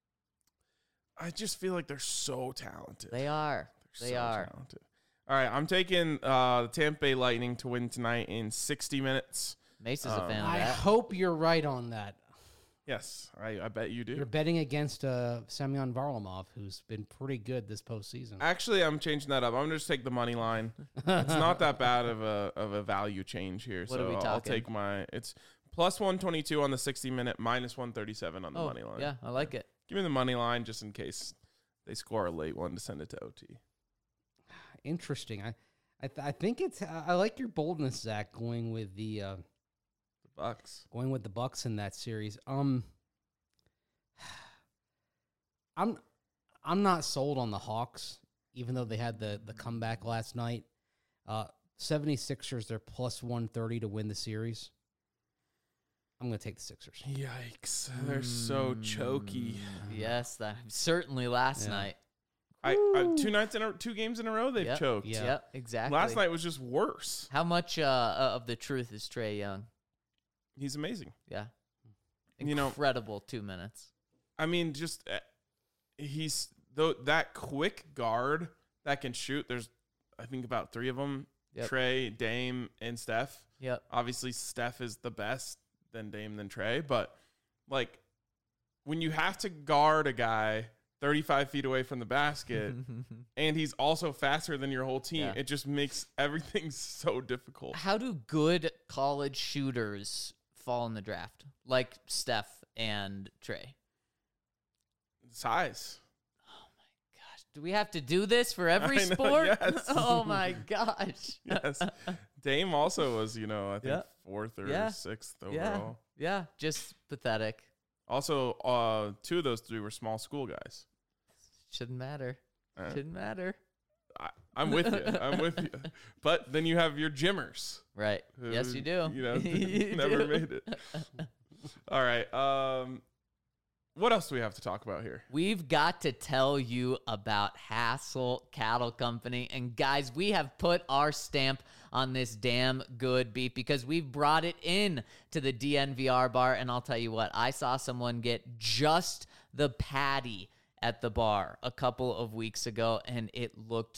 I just feel like they're so talented. They are. They're They so are. talented. All right, I'm taking uh, the Tampa Bay Lightning to win tonight in sixty minutes. Mace is a Um, fan of I that. hope you're right on that. Yes, I, I bet you do. You're betting against uh, Semyon Varlamov, who's been pretty good this postseason. Actually, I'm changing that up. I'm gonna just take the money line. It's not that bad of a of a value change here. What so are we I'll talking? take my. It's plus one twenty-two on the sixty minute, minus one thirty-seven on the Oh, money line. yeah, I like it. Give me the money line just in case they score a late one to send it to O T. Interesting. I, I, th- I think it's. I I like your boldness, Zach, going with the uh, The Bucks. going with the Bucks in that series. Um, I'm, I'm not sold on the Hawks, even though they had the the comeback last night. Uh, 76ers, they're plus one thirty to win the series. I'm going to take the Sixers. Yikes! They're so choky. Yes, that certainly last Yeah. night. I, I two nights in a, two games in a row they've Yep. choked. Yeah. Yep, exactly. Last night was just worse. How much uh, of the truth is Trae Young? He's amazing. Yeah. You know- Incredible two minutes. I mean, just uh, he's though that quick guard that can shoot. There's I think about three of them: Yep. Trey, Dame, and Steph. Yep. Obviously, Steph is the best, then Dame, then Trey. But like when you have to guard a guy thirty-five feet away from the basket, and he's also faster than your whole team, Yeah. it just makes everything so difficult. How do good college shooters fall in the draft? Like Steph and Trey. Size. Gosh, do we have to do this for every I know, sport? yes. Oh my gosh. Yes. Dame also was, you know, I think Yeah. fourth or Yeah. sixth Yeah. overall. Yeah, just pathetic. Also, uh, two of those three were small school guys. Shouldn't matter. Uh, Shouldn't matter. I, I'm with you. I'm with you. But then you have your gymmers. Right. who, Yes, you do. You know, You never do. made it. All right. Um, what else do we have to talk about here? We've got to tell you about Hassel Cattle Company. And guys, we have put our stamp on this damn good beef because we've brought it in to the D N V R bar. And I'll tell you what, I saw someone get just the patty at the bar a couple of weeks ago, and it looked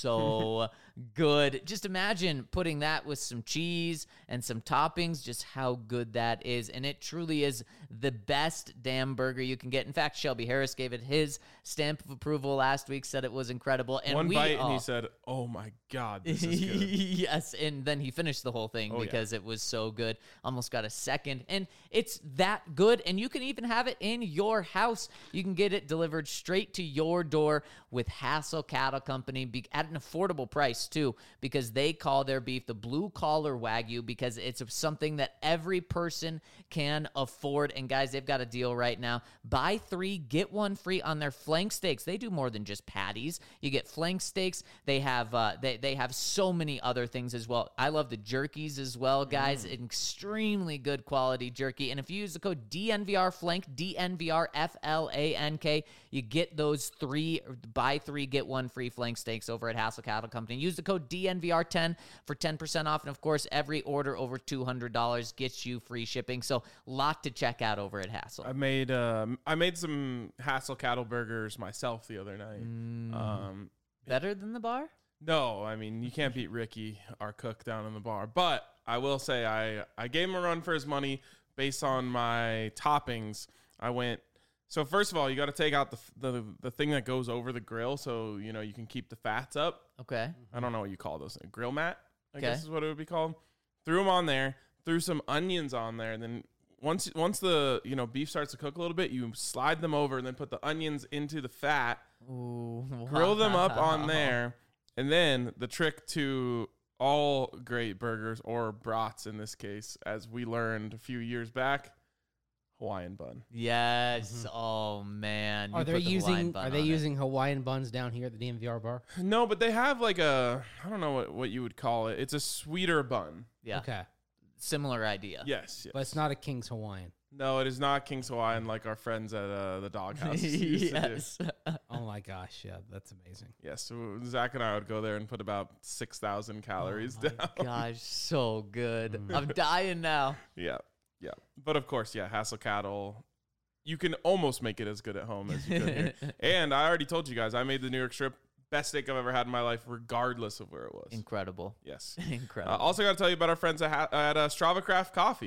so good. Just imagine putting that with some cheese and some toppings, just how good that is. And it truly is the best damn burger you can get. In fact, Shelby Harris gave it his stamp of approval last week, said it was incredible. And One we bite, and all- he said, "Oh my God, this is good." yes, and then he finished the whole thing Oh, yeah. because it was so good. Almost got a second, and it's that good. And you can even have it in your house. You can get it delivered straight to your door with Hassel Cattle Company be- at an affordable price too, because they call their beef the blue collar Wagyu because it's something that every person can afford. And guys, they've got a deal right now: buy three, get one free on their flank steaks. They do more than just patties. You get flank steaks. They have uh, they they have so many other things as well. I love the jerkies as well, guys. Extremely good quality jerky. And if you use the code D N V R Flank, D N V R F L A N K, you get those three, buy three, get one free flank steaks over at Hassel Cattle Company. Use the code D N V R ten for ten percent off. And of course, every order over two hundred dollars gets you free shipping. So lot to check out over at Hassel. I made um, I made some Hassel cattle burgers myself the other night. Mm. Um, Better than the bar? no, I mean you can't beat Ricky, our cook down in the bar. But I will say I I gave him a run for his money based on my toppings. I went. So first of all, you got to take out the, the the thing that goes over the grill, so you know you can keep the fats up. Okay. I don't know what you call those. A grill mat, I Okay. guess is what it would be called. Threw them on there. Threw some onions on there, and then once once the you know beef starts to cook a little bit, you slide them over, and then put the onions into the fat. Ooh, Grill them up on wow. there, and then the trick to all great burgers, or brats in this case, as we learned a few years back, Hawaiian bun. Yes. Oh man. You Are they put the Hawaiian using bun Are they on it. using Hawaiian buns down here at the D M V R bar? No, but they have like a I don't know what, what you would call it. It's a sweeter bun. Yeah. Okay, Yes, Similar idea. yes. but it's not a King's Hawaiian. No, it is not King's Hawaiian like our friends at uh, the Doghouse used to do. yes. Oh my gosh, yeah, that's amazing. Yes, so Zach and I would go there and put about six thousand calories Oh down. my gosh, so good. Mm. I'm dying now. Yeah, yeah. But of course, yeah, Hassel Cattle, you can almost make it as good at home as you could here. And I already told you guys, I made the New York strip. Best steak I've ever had in my life, regardless of where it was. Incredible. Yes. Incredible. Uh, also, got to tell you about our friends at, ha- at uh, Strava Craft Coffee.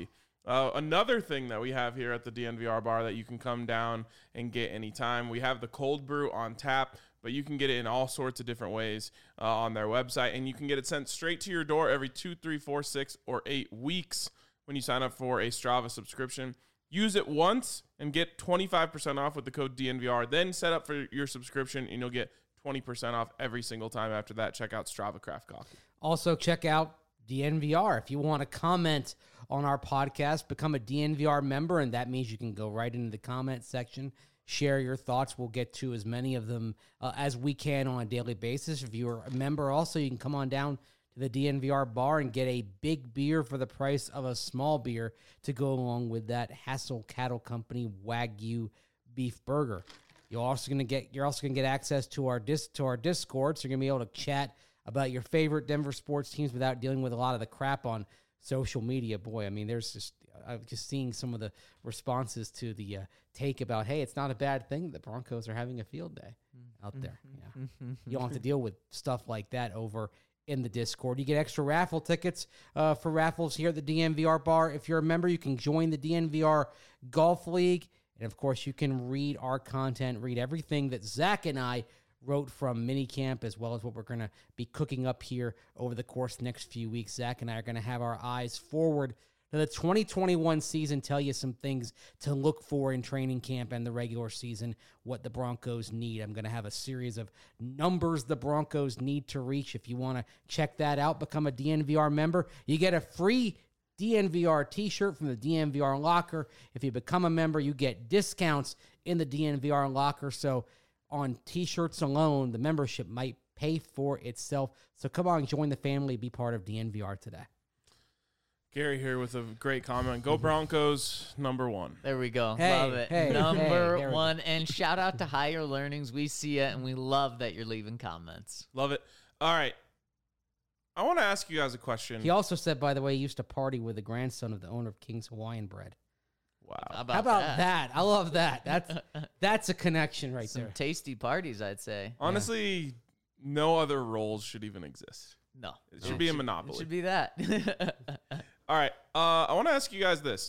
Uh, another thing that we have here at the D N V R bar that you can come down and get anytime, we have the cold brew on tap, but you can get it in all sorts of different ways uh, on their website, and you can get it sent straight to your door every two, three, four, six, or eight weeks when you sign up for a Strava subscription. Use it once and get twenty-five percent off with the code D N V R. Then set up for your subscription, and you'll get twenty percent off every single time after that. Check out Strava Craft Coffee. Also, check out D N V R. If you want to comment on our podcast, become a D N V R member, and that means you can go right into the comment section, share your thoughts. We'll get to as many of them uh, as we can on a daily basis. If you're a member also, you can come on down to the D N V R bar and get a big beer for the price of a small beer to go along with that Hassel Cattle Company Wagyu beef burger. You're also going to get you're also going to get access to our dis, to our Discord, so you're going to be able to chat about your favorite Denver sports teams without dealing with a lot of the crap on social media. Boy, I mean, there's just, I'm just seeing some of the responses to the uh, take about, hey, it's not a bad thing that the Broncos are having a field day out there. Yeah. You don't have to deal with stuff like that over in the Discord. You get extra raffle tickets uh, for raffles here at the D N V R bar. If you're a member, you can join the D N V R Golf League. And, of course, you can read our content, read everything that Zach and I wrote from minicamp, as well as what we're going to be cooking up here over the course of the next few weeks. Zach and I are going to have our eyes forward to the twenty twenty-one season, tell you some things to look for in training camp and the regular season, what the Broncos need. I'm going to have a series of numbers the Broncos need to reach. If you want to check that out, become a D N V R member. You get a free D N V R t-shirt from the D N V R locker. If you become a member, you get discounts in the D N V R locker. So on t-shirts alone, the membership might pay for itself. So come on, join the family, be part of D N V R today. Gary here with a great comment. Go Broncos, number one. There we go. Hey, love it. hey, number hey, there we one. And shout out to Higher Learnings. We see it, and we love that you're leaving comments. Love it. All right. I want to ask you guys a question. He also said, by the way, he used to party with the grandson of the owner of King's Hawaiian Bread. Wow. How about, How about that? that? I love that. That's that's a connection right Some there. tasty parties, I'd say. Honestly, no other roles should even exist. No. It should be a monopoly. It should be that. All right. Uh, I want to ask you guys this.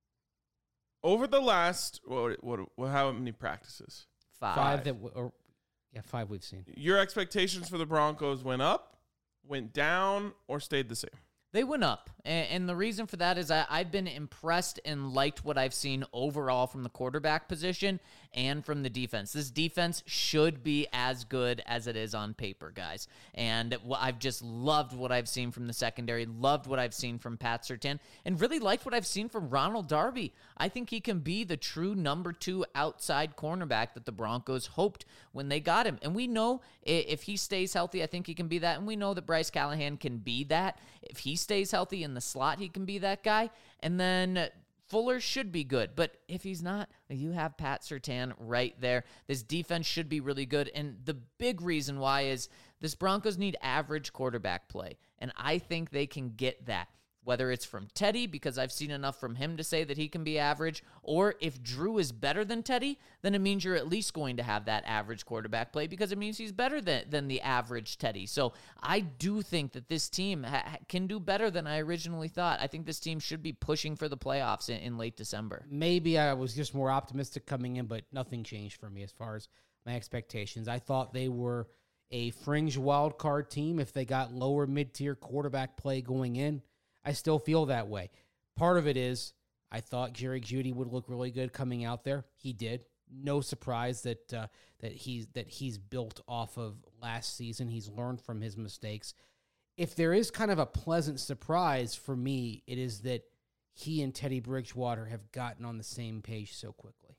Over the last, what, what, what, how many practices? Five. Five that, w- or yeah, five we've seen. Your expectations for the Broncos went up, went down, or stayed the same? They went up. And, and the reason for that is I, I've been impressed and liked what I've seen overall from the quarterback position and from the defense. This defense should be as good as it is on paper, guys. And wh- I've just loved what I've seen from the secondary, loved what I've seen from Pat Surtain, and really liked what I've seen from Ronald Darby. I think he can be the true number two outside cornerback that the Broncos hoped when they got him. And we know i- if he stays healthy, I think he can be that. And we know that Bryce Callahan can be that. If he stays healthy in the slot, he can be that guy. And then Fuller should be good. But if he's not, you have Pat Surtain right there. This defense should be really good. And the big reason why is this Broncos need average quarterback play. And I think they can get that. Whether it's from Teddy, because I've seen enough from him to say that he can be average, or if Drew is better than Teddy, then it means you're at least going to have that average quarterback play because it means he's better than, than the average Teddy. So I do think that this team ha- can do better than I originally thought. I think this team should be pushing for the playoffs in, in late December. Maybe I was just more optimistic coming in, but nothing changed for me as far as my expectations. I thought they were a fringe wild card team if they got lower mid-tier quarterback play going in. I still feel that way. Part of it is I thought Jerry Jeudy would look really good coming out there. He did. No surprise that uh, that he's that he's built off of last season. He's learned from his mistakes. If there is kind of a pleasant surprise for me, it is that he and Teddy Bridgewater have gotten on the same page so quickly.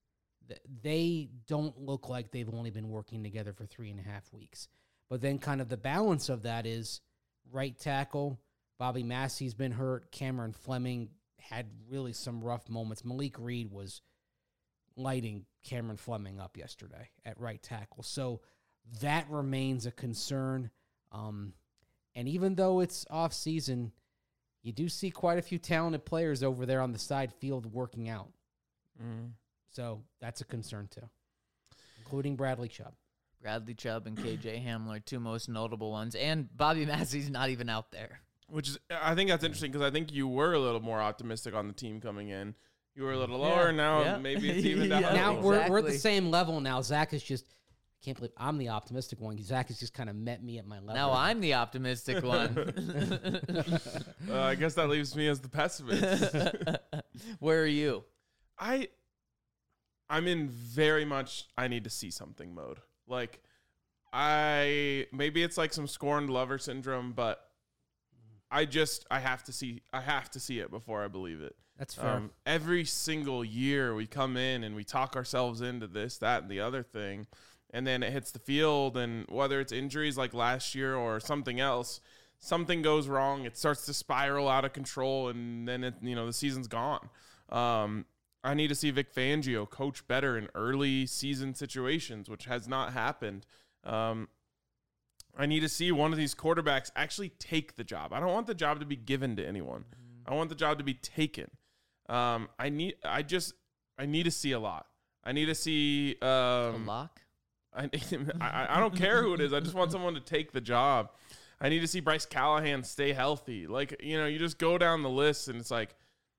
They don't look like they've only been working together for three and a half weeks. But then kind of the balance of that is right tackle, Bobby Massey's been hurt. Cameron Fleming had really some rough moments. Malik Reed was lighting Cameron Fleming up yesterday at right tackle. So that remains a concern. Um, and even though it's off season, you do see quite a few talented players over there on the side field working out. Mm. So that's a concern too, including Bradley Chubb. Bradley Chubb and K J Hamler, two most notable ones. And Bobby Massey's not even out there. which is I think that's interesting because I think you were a little more optimistic on the team coming in. You were a little Yeah, lower. Now yeah. maybe it's even down. Yeah, a now little. we're, we're at the exactly. same level now. Zach is just, I can't believe I'm the optimistic one. Zach has just kind of met me at my level. Now I'm the optimistic one. Uh, I guess that leaves me as the pessimist. Where are you? I, I'm in very much I need to see something mode. Like, I maybe it's like some scorned lover syndrome, but I just I have to see I have to see it before I believe it. That's fair. Um, every single year we come in and we talk ourselves into this, that, and the other thing, and then it hits the field, and whether it's injuries like last year or something else, something goes wrong. It starts to spiral out of control, and then it, you know the season's gone. Um, I need to see Vic Fangio coach better in early season situations, which has not happened. Um, I need to see one of these quarterbacks actually take the job. I don't want the job to be given to anyone. I want the job to be taken. Um, I need. I just. I need to see a lot. I need to see. A Um, lock? I, I I don't care who it is. I just want someone to take the job. I need to see Bryce Callahan stay healthy. Like, you know, you just go down the list and it's like,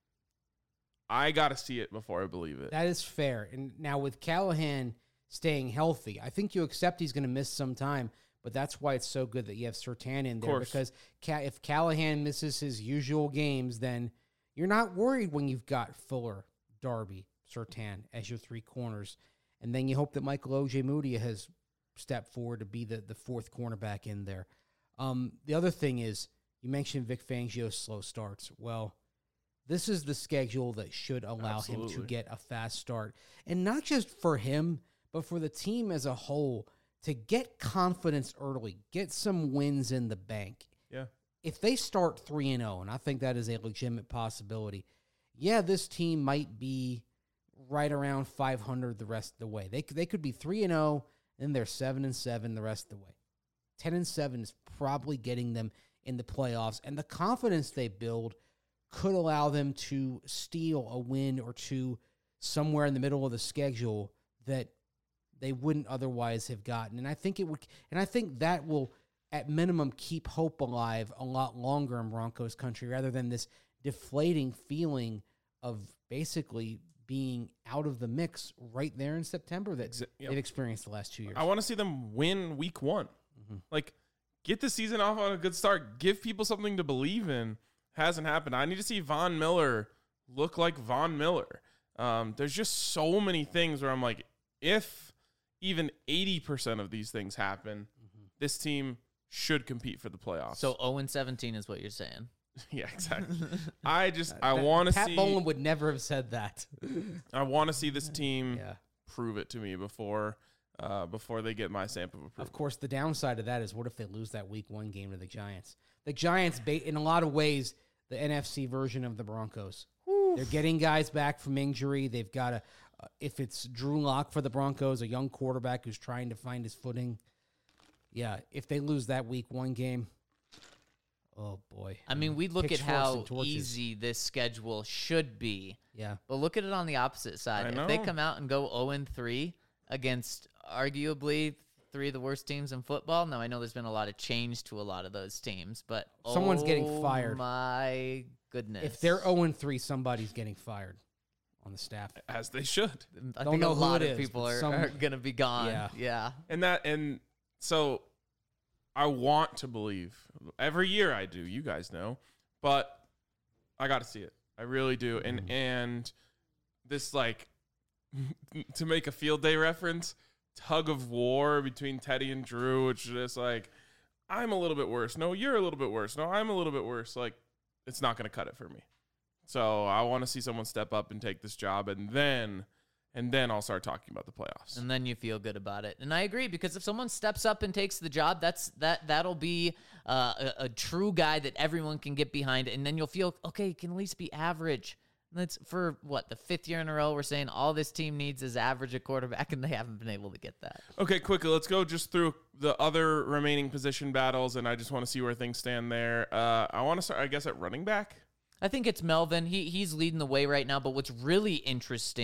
I got to see it before I believe it. That is fair. And now with Callahan staying healthy, I think you accept he's going to miss some time, but that's why it's so good that you have Surtain in there course. because Ca- if Callahan misses his usual games, then you're not worried when you've got Fuller, Darby, Surtain as your three corners. And then you hope that Michael Ojemudia has stepped forward to be the, the fourth cornerback in there. Um, the other thing is, you mentioned Vic Fangio's slow starts. Well, this is the schedule that should allow him to Absolutely. get a fast start. And not just for him, but for the team as a whole to get confidence early, get some wins in the bank. Yeah. If they start three and oh, and I think that is a legitimate possibility, yeah, this team might be right around five hundred the rest of the way. They could, they could be three and oh, and they're seven and seven the rest of the way. ten and seven is probably getting them in the playoffs, and the confidence they build could allow them to steal a win or two somewhere in the middle of the schedule that they wouldn't otherwise have gotten. And I think it would, and I think that will, at minimum, keep hope alive a lot longer in Broncos country rather than this deflating feeling of basically being out of the mix right there in September that Exa- yep. they've experienced the last two years. I want to see them win week one. Like, get the season off on a good start. Give people something to believe in. Hasn't happened. I need to see Von Miller look like Von Miller. Um, there's just so many things where I'm like, if even eighty percent of these things happen, this team should compete for the playoffs. So oh and seventeen is what you're saying. yeah, exactly. I just I That- want to Pat see Bowlen would never have said that. I want to see this team Yeah. prove it to me before uh, before they get my stamp of approval. Of course, the downside of that is what if they lose that week one game to the Giants? The Giants, ba- in a lot of ways, the N F C version of the Broncos. They're getting guys back from injury. They've got a, uh, if it's Drew Lock for the Broncos, a young quarterback who's trying to find his footing. Yeah, if they lose that week one game, oh boy. I mean, we look at Pitchforks how and torches. easy this schedule should be, Yeah. but look at it on the opposite side. I If they know. come out and go oh and three against arguably three of the worst teams in football, now I know there's been a lot of change to a lot of those teams, but Someone's getting oh fired. my goodness. If they're oh and three, somebody's getting fired on the staff. As they should. I don't think know a who lot it of is, people but are, some- are going to be gone. Yeah. yeah. And that and so I want to believe. Every year I do, you guys know. But I got to see it. I really do. And and this, like, to make a field day reference, tug of war between Teddy and Drew, which is just like, I'm a little bit worse. No, you're a little bit worse. No, I'm a little bit worse. Like, it's not going to cut it for me. So I want to see someone step up and take this job, and then and then I'll start talking about the playoffs. And then you feel good about it. And I agree, because if someone steps up and takes the job, that's that that'll be uh, a, a true guy that everyone can get behind. And then you'll feel, okay, it can at least be average. And that's for what, the fifth year in a row we're saying all this team needs is average at quarterback, and they haven't been able to get that. Okay, quickly, let's go just through the other remaining position battles, and I just want to see where things stand there. Uh, I want to start, I guess, at running back. I think it's Melvin. He he's leading the way right now. But what's really interesting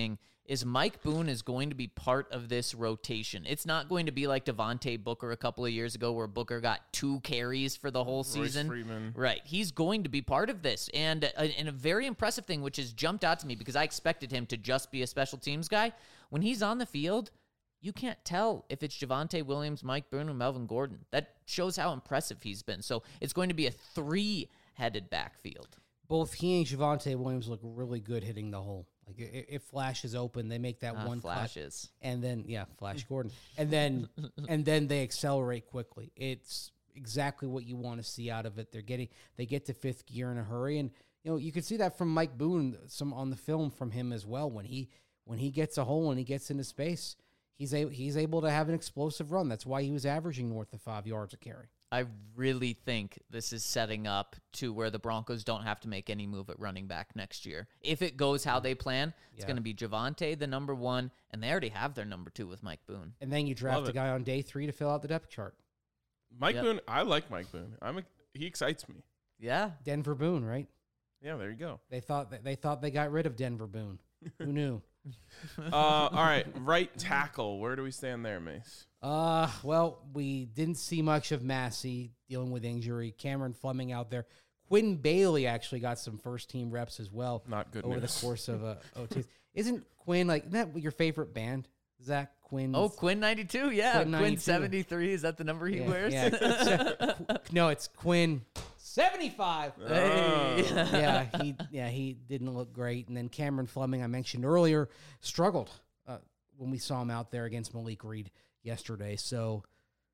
is Mike Boone is going to be part of this rotation. It's not going to be like Devontae Booker a couple of years ago where Booker got two carries for the whole Royce season. Freeman. Right. He's going to be part of this. And a, and a very impressive thing, which has jumped out to me because I expected him to just be a special teams guy. When he's on the field, you can't tell if it's Javonte Williams, Mike Boone, or Melvin Gordon. That shows how impressive he's been. So it's going to be a three-headed backfield. Both he and Javonte Williams look really good hitting the hole. Like it, it flashes open, they make that Uh, one cut, flashes. and then yeah, Flash Gordon, and then and then they accelerate quickly. It's exactly what you want to see out of it. They're getting they get to fifth gear in a hurry, and you know you can see that from Mike Boone, some on the film from him as well. When he when he gets a hole and he gets into space, he's a, he's able to have an explosive run. That's why he was averaging north of five yards a carry. I really think this is setting up to where the Broncos don't have to make any move at running back next year. If it goes how they plan, it's Yeah. going to be Javonte, the number one, and they already have their number two with Mike Boone. And then you draft Love a it. guy on day three to fill out the depth chart. Mike Yep. Boone, I like Mike Boone. I'm a, he excites me. Yeah. Denver Boone, right? Yeah, there you go. They thought that they thought they got rid of Denver Boone. Who knew? Uh, all right, right tackle. Where do we stand there, Mace? Uh, well, we didn't see much of Massey dealing with injury. Cameron Fleming out there. Quinn Bailey actually got some first team reps as well Not good over news. the course of uh, O Ts. Isn't Quinn like isn't that your favorite band? Zach Quinn. Oh, Quinn ninety-two. Yeah. Quinn Quinn, ninety-two. seventy-three. Is that the number he Yeah, wears? yeah. Qu- no, it's Quinn seventy-five. Hey. Oh. yeah, he yeah he didn't look great. And then Cameron Fleming, I mentioned earlier, struggled uh, when we saw him out there against Malik Reed yesterday. So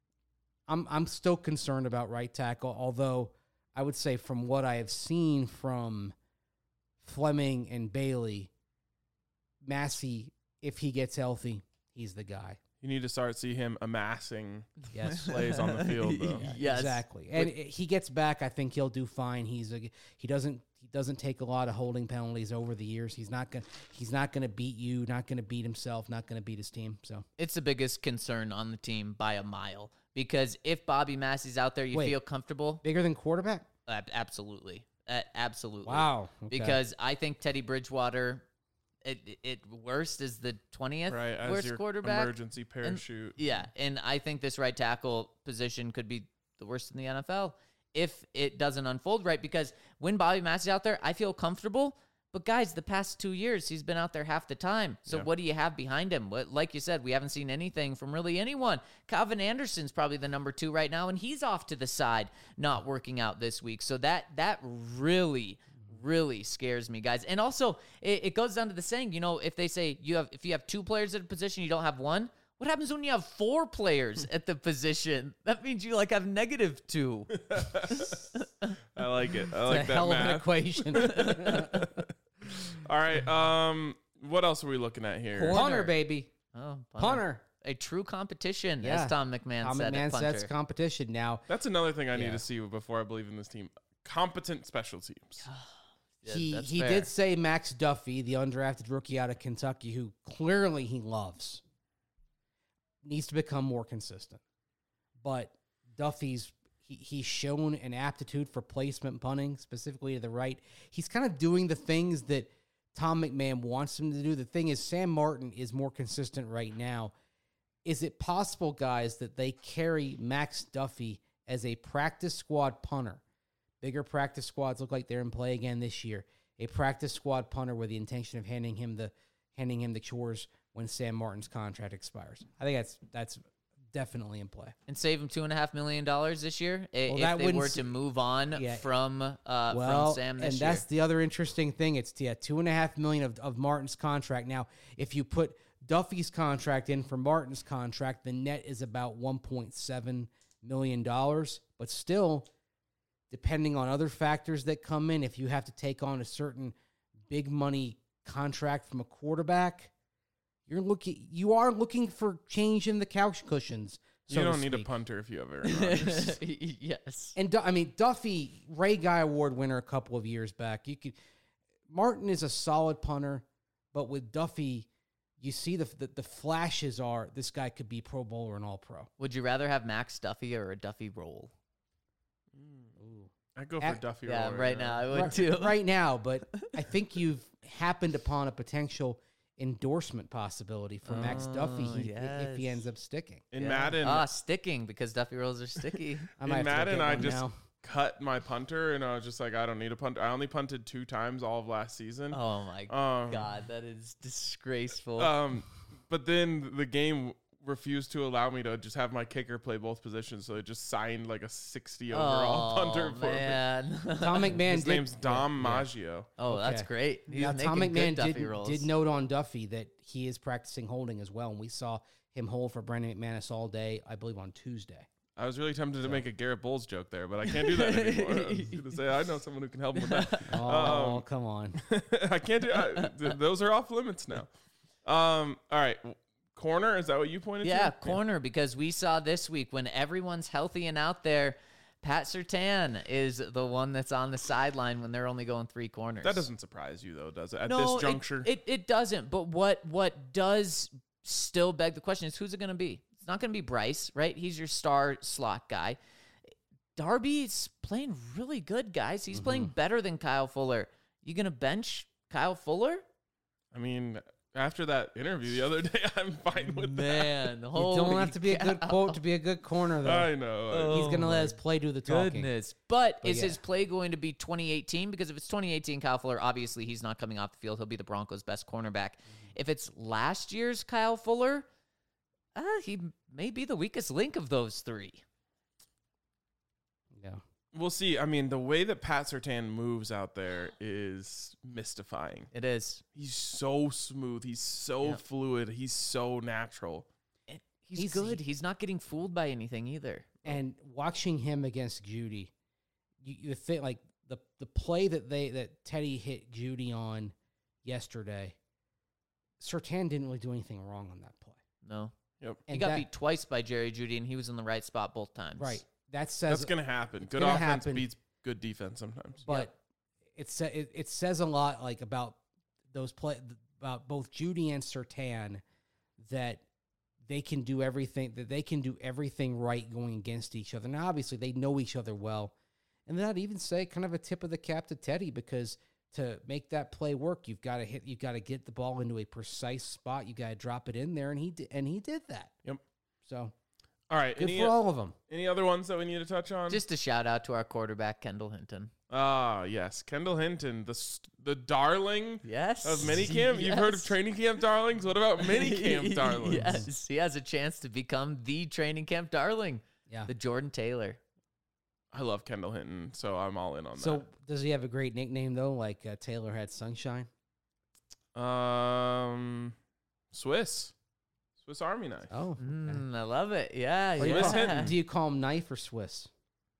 I'm I'm still concerned about right tackle, although I would say from what I have seen from Fleming and Bailey, Massey, if he gets healthy, he's the guy. You need to start see him amassing Yes. plays on the field, though. Yeah, Yes. exactly. And i- he gets back. I think he'll do fine. He's a, he doesn't he doesn't take a lot of holding penalties over the years. He's not gonna he's not gonna beat you. Not gonna beat himself. Not gonna beat his team. So It's the biggest concern on the team by a mile because if Bobby Massey's out there, you Wait. feel comfortable. bigger than quarterback. Ab- absolutely. Uh, absolutely. Wow. Okay. Because I think Teddy Bridgewater, it, it worst is the twentieth Right, as worst your quarterback. emergency parachute. Yeah, and I think this right tackle position could be the worst in the N F L if it doesn't unfold right. Because when Bobby Massey's out there, I feel comfortable. But guys, the past two years, he's been out there half the time. So Yeah. what do you have behind him? What, like you said, we haven't seen anything from really anyone. Calvin Anderson's probably the number two right now, and he's off to the side, not working out this week. So that that really, really scares me, guys. And also, it, it goes down to the saying, you know, if they say you have if you have two players at a position, you don't have one. What happens when you have four players at the position? That means you like have negative two. I like it. I It's like a that hell of an math. equation. All right. Um, what else are we looking at here? Punter, baby. Oh, Punter. A true competition, Yeah. as Tom McMahon Tom said. McMahon at punter. sets competition now. That's another thing I need Yeah. to see before I believe in this team. Competent special teams. Yeah, he that's he fair. did say Max Duffy, the undrafted rookie out of Kentucky, who clearly he loves, needs to become more consistent. But Duffy's he, he's shown an aptitude for placement punting, specifically to the right. He's kind of doing the things that Tom McMahon wants him to do. The thing is, Sam Martin is more consistent right now. Is it possible, guys, that they carry Max Duffy as a practice squad punter? Bigger practice squads look like they're in play again this year. A practice squad punter with the intention of handing him the handing him the chores when Sam Martin's contract expires. I think that's that's definitely in play. and save him two and a half million dollars this year i- Well, if that they wouldn't were s- to move on Yeah. from uh, Well, from Sam this and year. that's the other interesting thing. It's yeah, two and a half million of, of Martin's contract. Now, if you put Duffy's contract in for Martin's contract, the net is about one point seven million dollars. But still, depending on other factors that come in, if you have to take on a certain big money contract from a quarterback, you're looking you are looking for change in the couch cushions. So you to don't need a speak. punter if you have Aaron Rodgers. yes. And Du- I mean, Duffy, Ray Guy Award winner a couple of years back. You could Martin is a solid punter, but with Duffy, you see the the, the flashes are this guy could be Pro Bowler and All Pro. Would you rather have Max Duffy or a Duffy roll? I'd go for At- Duffy. Yeah, Roller right now. now I would right, too. right now, but I think you've happened upon a potential endorsement possibility for Max Duffy Oh, he, if he yes. ends up sticking. In Yeah. Madden, Ah, sticking because Duffy rolls are sticky. I in might have to go Madden, get I one just now. cut my punter, and I was just like, I don't need a punter. I only punted two times all of last season. Oh my Um, god, that is disgraceful. Um, but then the game refused to allow me to just have my kicker play both positions, so it just signed like a sixty overall oh, punter for me. man. Tom McMahon His did, name's Dom yeah. Maggio. Oh, that's Okay. great. He's Now, making Tom good McMahon Duffy did, rolls. did note on Duffy that he is practicing holding as well, and we saw him hold for Brandon McManus all day, I believe, on Tuesday. I was really tempted to So- make a Garrett Bowles joke there, but I can't do that anymore. I was going to say, I know someone who can help him with that. Oh, Um, come on. I can't do I, th- those are off limits now. Um, all right. Corner, is that what you pointed Yeah, to? corner, because we saw this week when everyone's healthy and out there, Pat Surtain is the one that's on the sideline when they're only going three corners. That doesn't surprise you, though, does it? At no, this it- juncture? It, it doesn't. But what what does still beg the question is who's it going to be? It's not going to be Bryce, right? He's your star slot guy. Darby's playing really good, guys. He's playing Mm-hmm. better than Kyle Fuller. You going to bench Kyle Fuller? I mean, after that interview the other day, I'm fine with Man, You holy don't have to be a good cow. quote to be a good corner, that. though. I know. Oh. He's going to let his play do the talking. Goodness. But, But is yeah. his play going to be twenty eighteen? Because if it's twenty eighteen Kyle Fuller, obviously he's not coming off the field. He'll be the Broncos' best cornerback. If it's last year's Kyle Fuller, uh, he may be the weakest link of those three. Yeah. We'll see. I mean, the way that Pat Surtain moves out there is mystifying. It is. He's so smooth. He's so Yeah. fluid. He's so natural. And He's, He's- good. He's not getting fooled by anything either. And watching him against Judy, you, you think like the the play that they that Teddy hit Judy on yesterday, Surtain didn't really do anything wrong on that play. No. Yep. He And got that- beat twice by Jerry Judy, and he was in the right spot both times. Right. That says That's going to happen. Good gonna offense happen. beats good defense sometimes. but it, sa- it it says a lot like about those play about both Judy and Surtain that they can do everything that they can do everything right going against each other. Now obviously they know each other well. And then I'd even say kind of a tip of the cap to Teddy, because to make that play work, you've got to hit you've got to get the ball into a precise spot. You got to drop it in there, and he did, and he did that. Yep. So All right. good Any, for all of them. any other ones that we need to touch on? Just a shout out to our quarterback, Kendall Hinton. Ah, yes. Kendall Hinton, the st- the darling Yes. of minicamp. You've heard of Yes. training camp darlings? What about minicamp darlings? Yes. He has a chance to become the training camp darling, Yeah. the Jordan Taylor. I love Kendall Hinton, so I'm all in on So does he have a great nickname though, like uh, Taylor had Sunshine? that. Um, Swiss. Swiss Army knife. Oh, okay. Mm, I love it. Yeah. What do, you Swiss call, Hinton. do you call him knife or Swiss?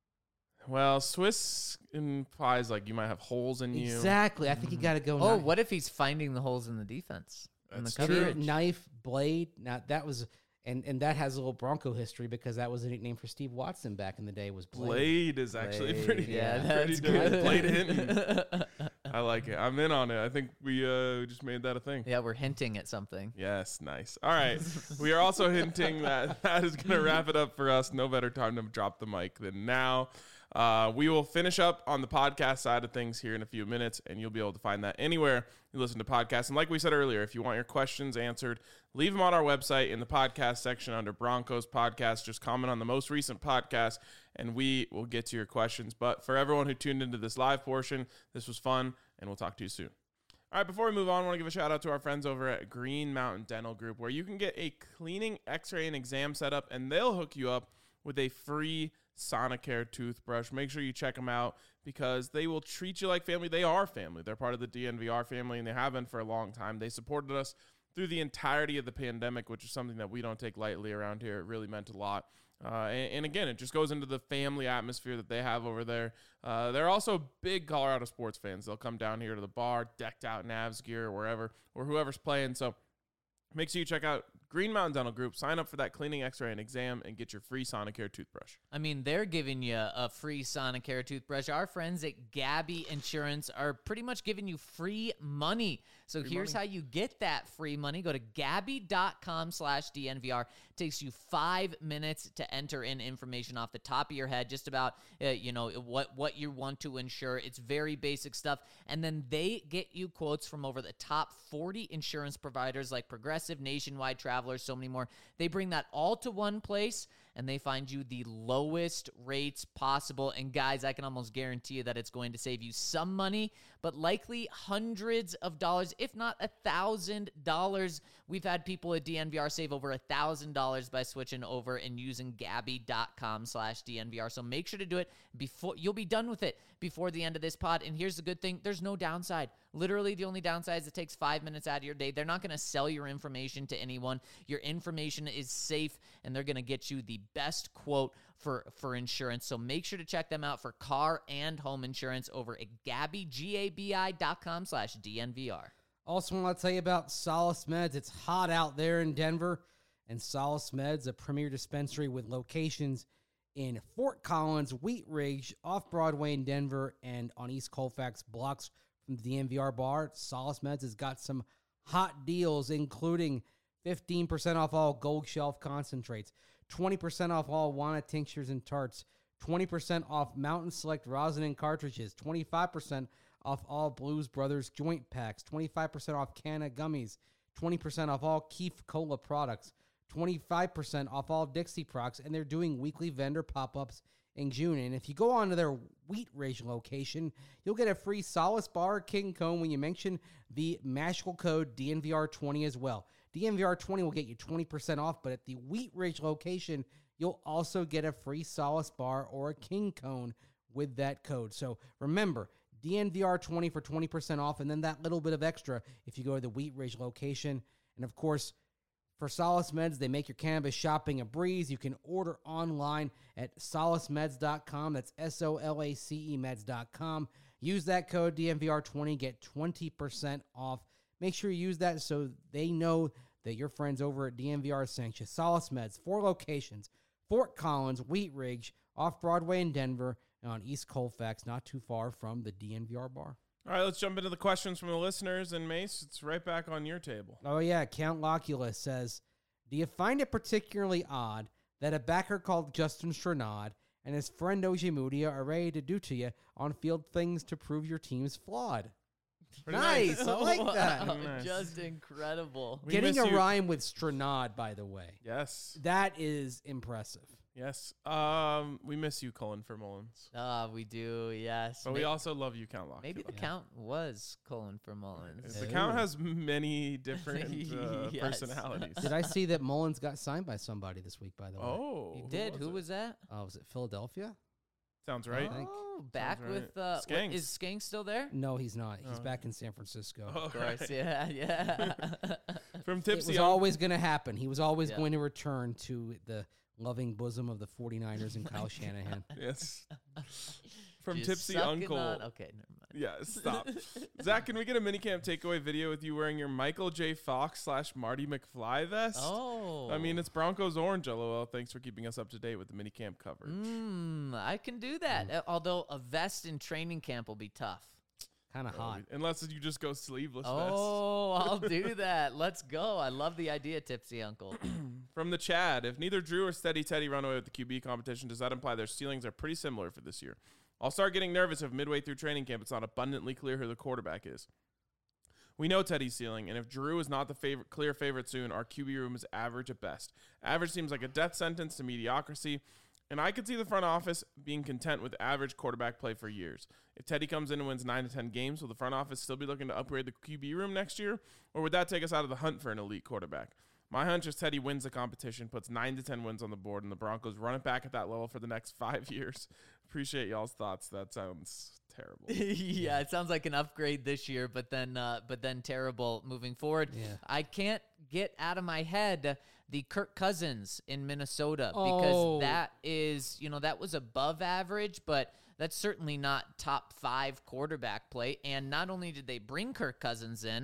Well, Swiss implies like you might have holes in you. Exactly. I think you got to go. Oh, knife. what if he's finding the holes in the defense? In the That's Maybe true. coverage? knife, blade. Now that was, and and that has a little Bronco history because that was a nickname for Steve Watson back in the day. Was blade. Blade is actually Blade. pretty, Yeah, pretty that's good. good. Blade Hinton. I like it. I'm in on it. I think we uh, just made that a thing. Yeah, we're hinting at something. Yes, nice. All right. We are also hinting that that is going to wrap it up for us. No better time to drop the mic than now. Uh, we will finish up on the podcast side of things here in a few minutes, and you'll be able to find that anywhere you listen to podcasts. And like we said earlier, if you want your questions answered, leave them on our website in the podcast section under Broncos Podcast. Just comment on the most recent podcast, and we will get to your questions. But for everyone who tuned into this live portion, this was fun, and we'll talk to you soon. All right, before we move on, I want to give a shout out to our friends over at Green Mountain Dental Group, where you can get a cleaning, x-ray, and exam setup, and they'll hook you up with a free Sonicare toothbrush. Make sure you check them out because they will treat you like family. They are family. They're part of the D N V R family, and they have been for a long time. They supported us through the entirety of the pandemic, which is something that we don't take lightly around here. It really meant a lot. Uh, and, and again, it just goes into the family atmosphere that they have over there. Uh, they're also big Colorado sports fans. They'll come down here to the bar, decked out in Avs gear or wherever, or whoever's playing. So make sure you check out Green Mountain Dental Group. Sign up for that cleaning, x-ray, and exam and get your free Sonicare toothbrush. I mean, they're giving you a free Sonicare toothbrush. Our friends at Gabby Insurance are pretty much giving you free money. So Free here's money. how you get that free money. Go to Gabby.com slash DNVR. It takes you five minutes to enter in information off the top of your head, just about, uh, you know, what, what you want to insure. It's very basic stuff. And then they get you quotes from over the top forty insurance providers like Progressive, Nationwide, Travelers, so many more. They bring that all to one place, and they find you the lowest rates possible. And guys, I can almost guarantee you that it's going to save you some money, but likely hundreds of dollars, if not a thousand dollars. We've had people at D N V R save over a thousand dollars by switching over and using Gabby.com slash DNVR. So make sure to do it before you'll be done with it before the end of this pod. And here's the good thing. There's no downside. Literally, the only downside is it takes five minutes out of your day. They're not going to sell your information to anyone. Your information is safe, and they're going to get you the best quote for, for insurance. So make sure to check them out for car and home insurance over at Gabby, G-A-B-I dot com slash DNVR. Also, want to tell you about Solace Meds. It's hot out there in Denver, and Solace Meds, a premier dispensary with locations in Fort Collins, Wheat Ridge, off Broadway in Denver, and on East Colfax, blocks from the D N V R bar. Solace Meds has got some hot deals, including fifteen percent off all Gold Shelf concentrates, twenty percent off all Wana tinctures and tarts, twenty percent off Mountain Select rosin and cartridges, twenty-five percent off all Blues Brothers joint packs, twenty-five percent off Canna gummies, twenty percent off all Keef Cola products, twenty-five percent off all Dixie products, and they're doing weekly vendor pop-ups in June. And if you go on to their Wheat Ridge location, you'll get a free Solace Bar King Cone when you mention the magical code D N V R twenty as well. D N V R twenty will get you twenty percent off, but at the Wheat Ridge location, you'll also get a free Solace Bar or a King Cone with that code. So remember, D N V R twenty for twenty percent off, and then that little bit of extra if you go to the Wheat Ridge location. And of course, for Solace Meds, they make your cannabis shopping a breeze. You can order online at solace meds dot com. That's S O L A C E meds dot com. Use that code D N V R twenty, get twenty percent off. Make sure you use that so they know that your friends over at D N V R sent you. Solace Meds, four locations: Fort Collins, Wheat Ridge, off Broadway in Denver, and on East Colfax, not too far from the D N V R bar. All right, let's jump into the questions from the listeners. And Mace, it's right back on your table. Oh, yeah. Count Locula says, do you find it particularly odd that a backer called Justin Stranad and his friend Ojemudia are ready to do to you on-field things to prove your team's flawed? Pretty Nice. I like Wow, that. Nice. Just incredible. We Getting miss a you. rhyme with Stranad, by the way. Yes, That is impressive. yes. Um, we miss you, Cullen for Mullins. Ah, we do, yes. But May- we also love you, Count Lock. Maybe the Yeah. count was Colin for Mullins. The Ooh. Count has many different uh, Yes. personalities. Did I see that Mullins got signed by somebody this week, by the way? Oh, You did. Who it? was that? Oh, was it Philadelphia? Sounds right. think. Oh, back right. with uh, what- Skanks. is Skank still there? No, he's not. He's Oh. back in San Francisco. Oh, Of course, right. yeah, yeah. From It Tipsy was Uncle- always going to happen. He was always Yeah. going to return to the loving bosom of the 49ers and Kyle Shanahan. Yes. From Just Tipsy sucking Uncle. on- Okay, never mind. Yeah, stop. Zach, can we get a minicamp takeaway video with you wearing your Michael J. Fox slash Marty McFly vest? Oh, I mean, it's Broncos orange, lol. Thanks for keeping us up to date with the minicamp coverage. mm, I can do that. Uh, Although a vest in training camp will be tough. Kind of hot. Unless you just go sleeveless Oh, I'll do that. Let's go. I love the idea, Tipsy Uncle. vest. From the Chad, if neither Drew or Steady Teddy run away with the Q B competition, does that imply their ceilings are pretty similar for this year? I'll start getting nervous if midway through training camp it's not abundantly clear who the quarterback is. We know Teddy's ceiling, and if Drew is not the favorite, clear favorite soon, our Q B room is average at best. Average seems like a death sentence to mediocrity, and I could see the front office being content with average quarterback play for years. If Teddy comes in and wins nine to ten games, will the front office still be looking to upgrade the Q B room next year, or would that take us out of the hunt for an elite quarterback? My hunch is Teddy wins the competition, puts nine to ten wins on the board, and the Broncos run it back at that level for the next five years. Appreciate y'all's thoughts. That sounds terrible. yeah, it sounds like an upgrade this year, but then uh, but then terrible moving forward. Yeah. I can't get out of my head the Kirk Cousins in Minnesota because Oh. that is, you know, that was above average, but that's certainly not top five quarterback play. And not only did they bring Kirk Cousins in,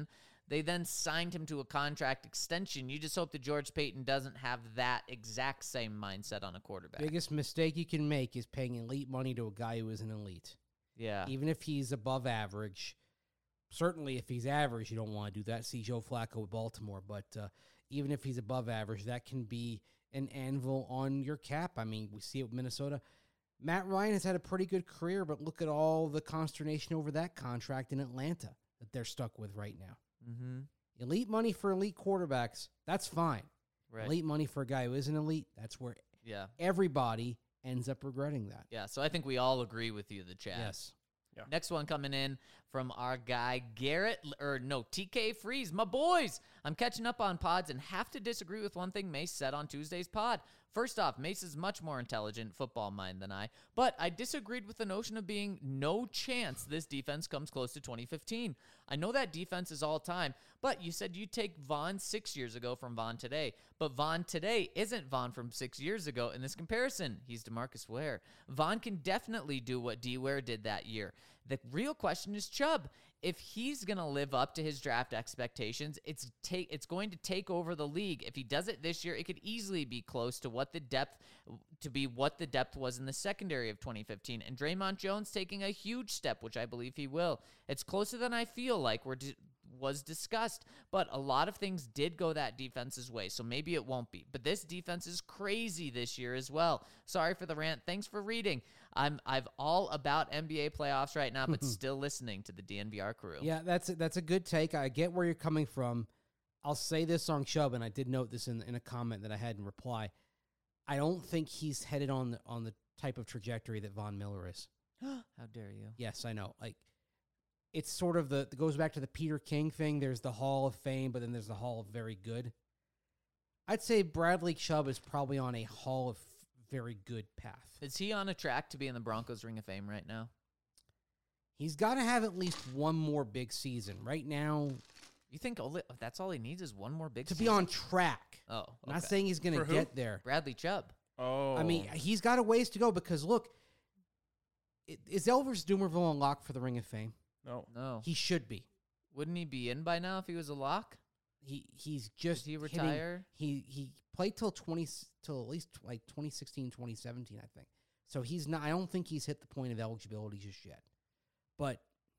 They then signed him to a contract extension. You just hope that George Payton doesn't have that exact same mindset on a quarterback. Biggest mistake you can make is paying elite money to a guy who isn't elite. Yeah. Even if he's above average. Certainly, if he's average, you don't want to do that. See Joe Flacco with Baltimore. But uh, even if he's above average, that can be an anvil on your cap. I mean, we see it with Minnesota. Matt Ryan has had a pretty good career, but look at all the consternation over that contract in Atlanta that they're stuck with right now. Mm-hmm. Elite money for elite quarterbacks, that's fine. Right. Elite money for a guy who isn't elite, that's where Yeah. everybody ends up regretting that. Yeah. So I think we all agree with you, the chat. Yes. Yeah. Next one coming in from our guy Garrett, or no, T K Freeze. My boys, I'm catching up on pods and have to disagree with one thing Mace said on Tuesday's pod. First off, Mace is much more intelligent football mind than I, but I disagreed with the notion of being no chance this defense comes close to twenty fifteen. I know that defense is all time, but you said you take Vaughn six years ago from Vaughn today, but Vaughn today isn't Vaughn from six years ago in this comparison. He's DeMarcus Ware. Vaughn can definitely do what D. Ware did that year. The real question is Chubb. If he's going to live up to his draft expectations, it's take it's going to take over the league. If he does it this year, it could easily be close to what the depth to be what the depth was in the secondary of twenty fifteen. And Draymond Jones taking a huge step, which I believe he will. It's closer than I feel like we're di- was discussed, but a lot of things did go that defense's way, so maybe it won't be. But this defense is crazy this year as well. Sorry for the rant. Thanks for reading. I'm I've all about N B A playoffs right now, but still listening to the D N V R crew. Yeah, that's a, that's a good take. I get where you're coming from. I'll say this on Chubb, and I did note this in in a comment that I had in reply. I don't think he's headed on the, on the type of trajectory that Von Miller is. How dare you? Yes, I know. Like, it's sort of the, it goes back to the Peter King thing. There's the Hall of Fame, but then there's the Hall of Very Good. I'd say Bradley Chubb is probably on a Hall of Very Good path. Is he on a track to be in the Broncos Ring of Fame right now? He's got to have at least one more big season. Right now, You think only, that's all he needs is one more big to season? be on track. Oh, okay. I'm not saying he's going For to who? get there. Bradley Chubb. Oh, I mean, he's got a ways to go because, look, i- is Elvis Dumervil on lock for the Ring of Fame? no. No. He should be. Wouldn't he be in by now if he was a lock? He he's just Did he hitting- retire? he he played till twenty till at least like twenty sixteen, twenty seventeen, I think. So he's not. I don't think he's hit the point of eligibility just yet. But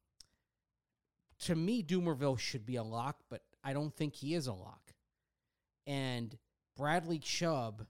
to me, Dumervil should be a lock, but I don't think he is a lock. And Bradley Chubb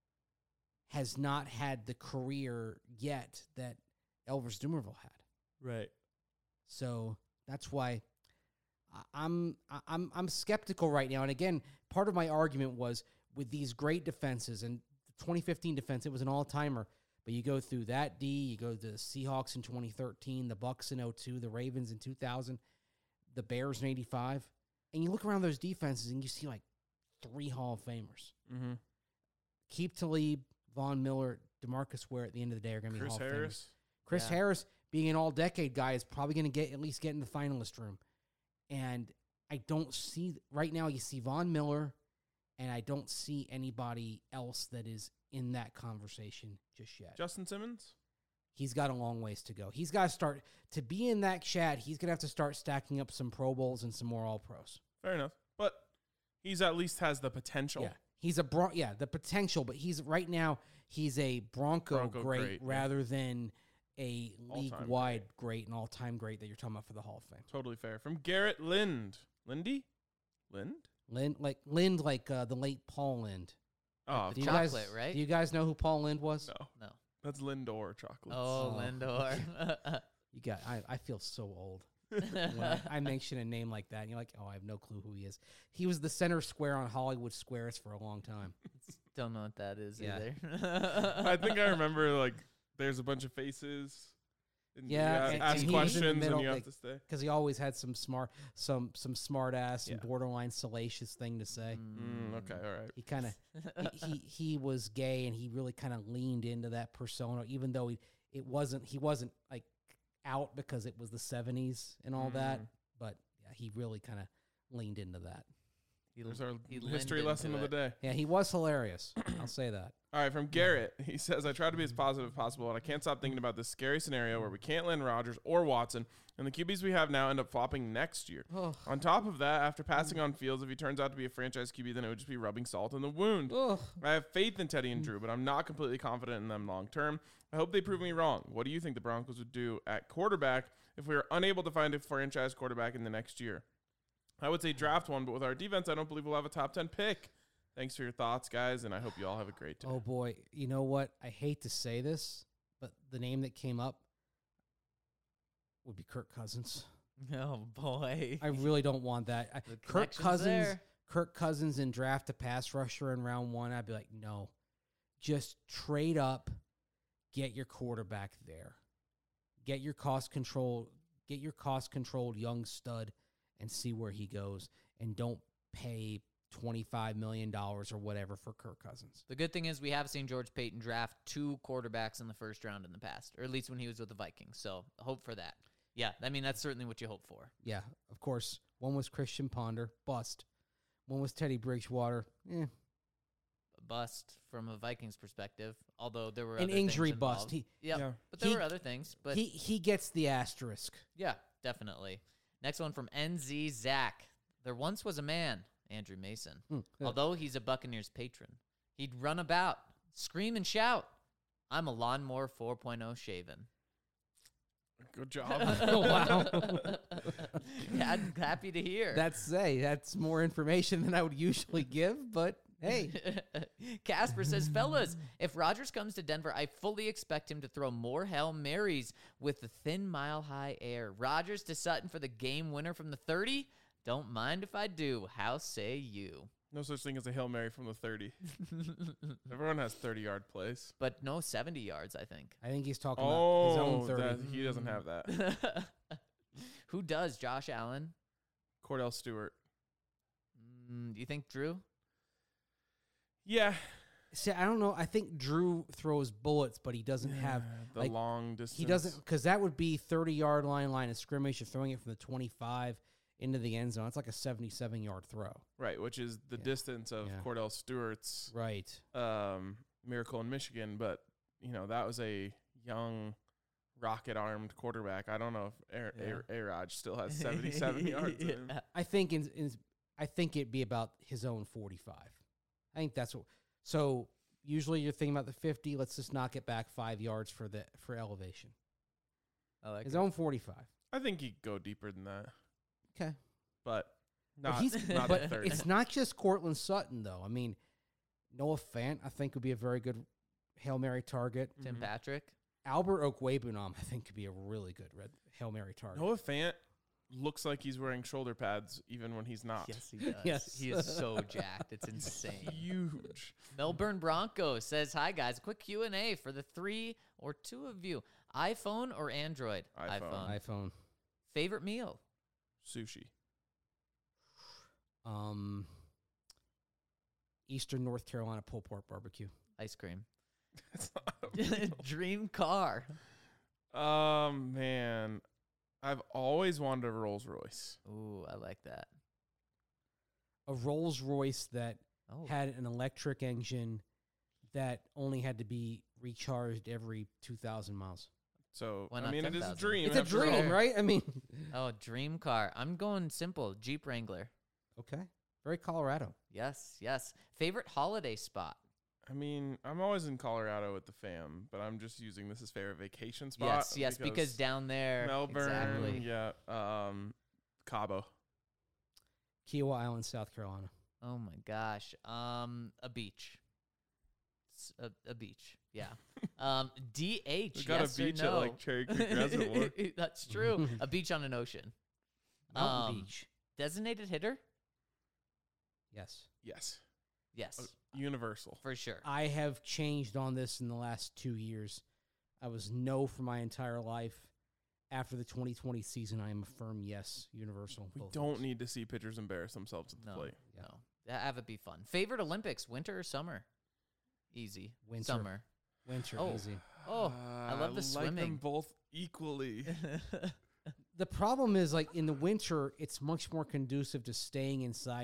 has not had the career yet that Elvis Dumervil had. Right. So that's why I- I'm I- I'm I'm skeptical right now. And again, part of my argument was with these great defenses, and the twenty fifteen defense, it was an all timer. But you go through that D, you go to the Seahawks in twenty thirteen, the Bucks in oh two, the Ravens in two thousand, the Bears in eighty-five, and you look around those defenses and you see like three Hall of Famers. Mm-hmm. Keep Talib, Von Miller, DeMarcus Ware at the end of the day are going to be Chris Hall of Famers. Harris. Chris Yeah. Harris, being an all-decade guy, is probably going to get at least get in the finalist room. And I don't see right now. You see Von Miller, and I don't see anybody else that is in that conversation just yet. Justin Simmons. He's got a long ways to go. He's got to start to be in that chat. He's going to have to start stacking up some Pro Bowls and some more All Pros. Fair enough, but he's at least has the potential. Yeah, he's a Bron- yeah the potential, but he's right now he's a Bronco, Bronco great, great, yeah. rather than a All-time league wide great and all time great that you're talking about for the Hall of Fame. Totally fair. From Garrett Lind. Lindy? Lind? Lind, like Lind, like uh, the late Paul Lind. Oh, Do you Chocolate, guys, right? Do you guys know who Paul Lind was? no. No. That's Lindor chocolates. Oh, Oh. Lindor. You got. I, I feel so old when I, I mention a name like that. And you're like, oh, I have no clue who he is. He was the center square on Hollywood Squares for a long time. Don't know what that is Yeah. either. I think I remember, like, there's a bunch of faces. And you Yeah, ask, and- ask and he was in the questions middle, and you like- have to stay. Because he always had some smart, some some smart ass and Yeah. borderline salacious thing to say. Mm, okay, all right. He kind of he, he he was gay and he really kind of leaned into that persona, even though he it wasn't he wasn't like out because it was the seventies and all that. Mm. But yeah, he really kind of leaned into that. He, There's our he history leaned lesson into of the it. day. Yeah, he was hilarious. I'll say that. All right, from Garrett. He says, I try to be as positive as possible, and I can't stop thinking about this scary scenario where we can't land Rodgers or Watson, and the Q Bs we have now end up flopping next year. Oh. On top of that, after passing on Fields, if he turns out to be a franchise Q B, then it would just be rubbing salt in the wound. Ugh. I have faith in Teddy and Drew, but I'm not completely confident in them long term. I hope they prove me wrong. What do you think the Broncos would do at quarterback if we are unable to find a franchise quarterback in the next year? I would say draft one, but with our defense, I don't believe we'll have a top ten pick. Thanks for your thoughts, guys, and I hope you all have a great day. Oh boy, you know what? I hate to say this, but the name that came up would be Kirk Cousins. Oh boy. I really don't want that. I, The Kirk connection's Cousins, there. Kirk Cousins, and draft a pass rusher in round one. I'd be like, no, just trade up, get your quarterback there, get your cost control, get your cost controlled young stud, and see where he goes, and don't pay twenty-five million dollars or whatever for Kirk Cousins. The good thing is we have seen George Payton draft two quarterbacks in the first round in the past, or at least when he was with the Vikings. So hope for that. Yeah, I mean, that's certainly what you hope for. Yeah, of course. One was Christian Ponder, bust. One was Teddy Bridgewater, eh. A bust from a Vikings perspective, although there were An other injury things bust. involved. He Yep. Yeah. But there He- were other things. But he he gets the asterisk. yeah, definitely. Next one from N Z Zach. There once was a man, Andrew Mason. Hmm. Although he's a Buccaneers patron, he'd run about, scream and shout, I'm a lawnmower four point oh shaven. Good job. Oh, wow. Yeah, I'm happy to hear. That's say that's more information than I would usually give, but hey, Casper says, fellas, if Rodgers comes to Denver, I fully expect him to throw more Hail Marys with the thin mile-high air. Rodgers to Sutton for the game winner from the thirty? Don't mind if I do. How say you? No such thing as a Hail Mary from the thirty. Everyone has thirty-yard plays. But no seventy yards, I think. I think he's talking about his Oh, own thirty. that, he doesn't have that. Who does? Josh Allen? Cordell Stewart. Mm, do you think Drew? Yeah. See, I don't know. I think Drew throws bullets, but he doesn't have the like, long distance. he doesn't because that would be thirty-yard line line of scrimmage. You're throwing it from the twenty-five into the end zone. It's like a seventy-seven-yard throw. Right, which is the Yeah. distance of Yeah. Cordell Stewart's Right. um, miracle in Michigan. But, you know, that was a young, rocket-armed quarterback. I don't know if A- Yeah. A- A-Raj still has seventy-seven yards in him. Yeah. I think in, in I think it'd be about his own forty-five. I think that's what. So usually you're thinking about the fifty. Let's just knock it back five yards for the for elevation. I like His it. own forty-five. I think he'd go deeper than that. Okay. But But not, he's not but thirty. it's not just Cortland Sutton though. I mean, Noah Fant I think would be a very good Hail Mary target. Tim Mhm. Patrick? Albert Okwebunam I think could be a really good red Hail Mary target. Noah Fant looks like he's wearing shoulder pads even when he's not. Yes, he does. Yes. He is so jacked. It's insane. Huge. Melbourne Broncos says, hi, guys. Quick Q and A for the three or two of you. iPhone or Android? iPhone. iPhone. Favorite meal? Sushi. Um, Eastern North Carolina pulled pork barbecue. Ice cream. It's not a meal. Dream car. Um, man, I've always wanted a Rolls Royce. Ooh, I like that. A Rolls Royce that Oh, had an electric engine that only had to be recharged every two thousand miles. So Why I not mean, it is a ten thousand? dream. It's a after dream, all. right? I mean, oh, dream car. I'm going simple. Jeep Wrangler. okay. Very Colorado. Yes, yes. Favorite holiday spot? I mean, I'm always in Colorado with the fam, but I'm just using this as favorite vacation spot. Yes, yes, because, down there. Melbourne, Exactly. yeah, um, Cabo. Kiowa Island, South Carolina. Oh my gosh. Um, a beach. S- A, a beach. Yeah. Um, D H. We got yes a beach or at no? like Cherry Creek Reservoir. That's true. A beach on an ocean. Mountain Um, Beach. Designated hitter? Yes. Yes, Yes, Uh, universal. for sure. I have changed on this in the last two years. I was no for my entire life. After the twenty twenty season, I am a firm yes, universal. We both don't ways. need to see pitchers embarrass themselves at the No, plate. Yeah. no. Yeah, Have it be fun. Favorite Olympics, winter or summer? Easy. Winter. Summer. winter Oh. easy. Oh, I love the like swimming. them both equally. The problem is, like in the winter, it's much more conducive to staying inside and just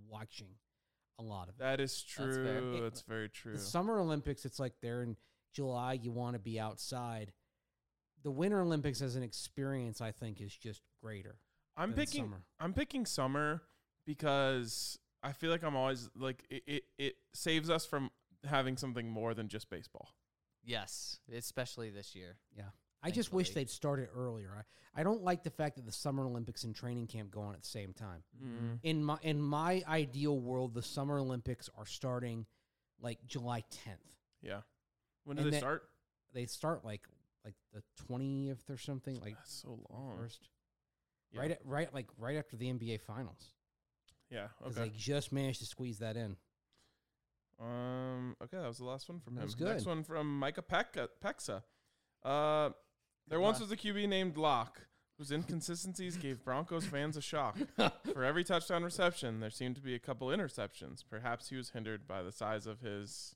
watching a lot of it. That is That's fair. true. It- That's very true. The Summer Olympics, it's like they're in July, you want to be outside. The Winter Olympics as an experience, I think, is just greater. I'm than picking. summer. I'm picking summer because I feel like I'm always like it, it. It saves us from having something more than just baseball. Yes, especially this year. Yeah. I just wish Thankfully. they'd started earlier. I, I don't like the fact that the Summer Olympics and training camp go on at the same time. Mm. In my in my ideal world, the Summer Olympics are starting like July tenth. Yeah. When do And they then- start? They start like like the twentieth or something, like That's so long. first. Yeah. Right at, right like right after the N B A finals. Yeah. Because Okay. they just managed to squeeze that in. Um. Okay, that was the last one from That him. was good. Next one from Micah Pekka, Pexa. Uh, there once was a Q B named Locke whose inconsistencies gave Broncos fans a shock. For every touchdown reception, there seemed to be a couple interceptions. Perhaps he was hindered by the size of his.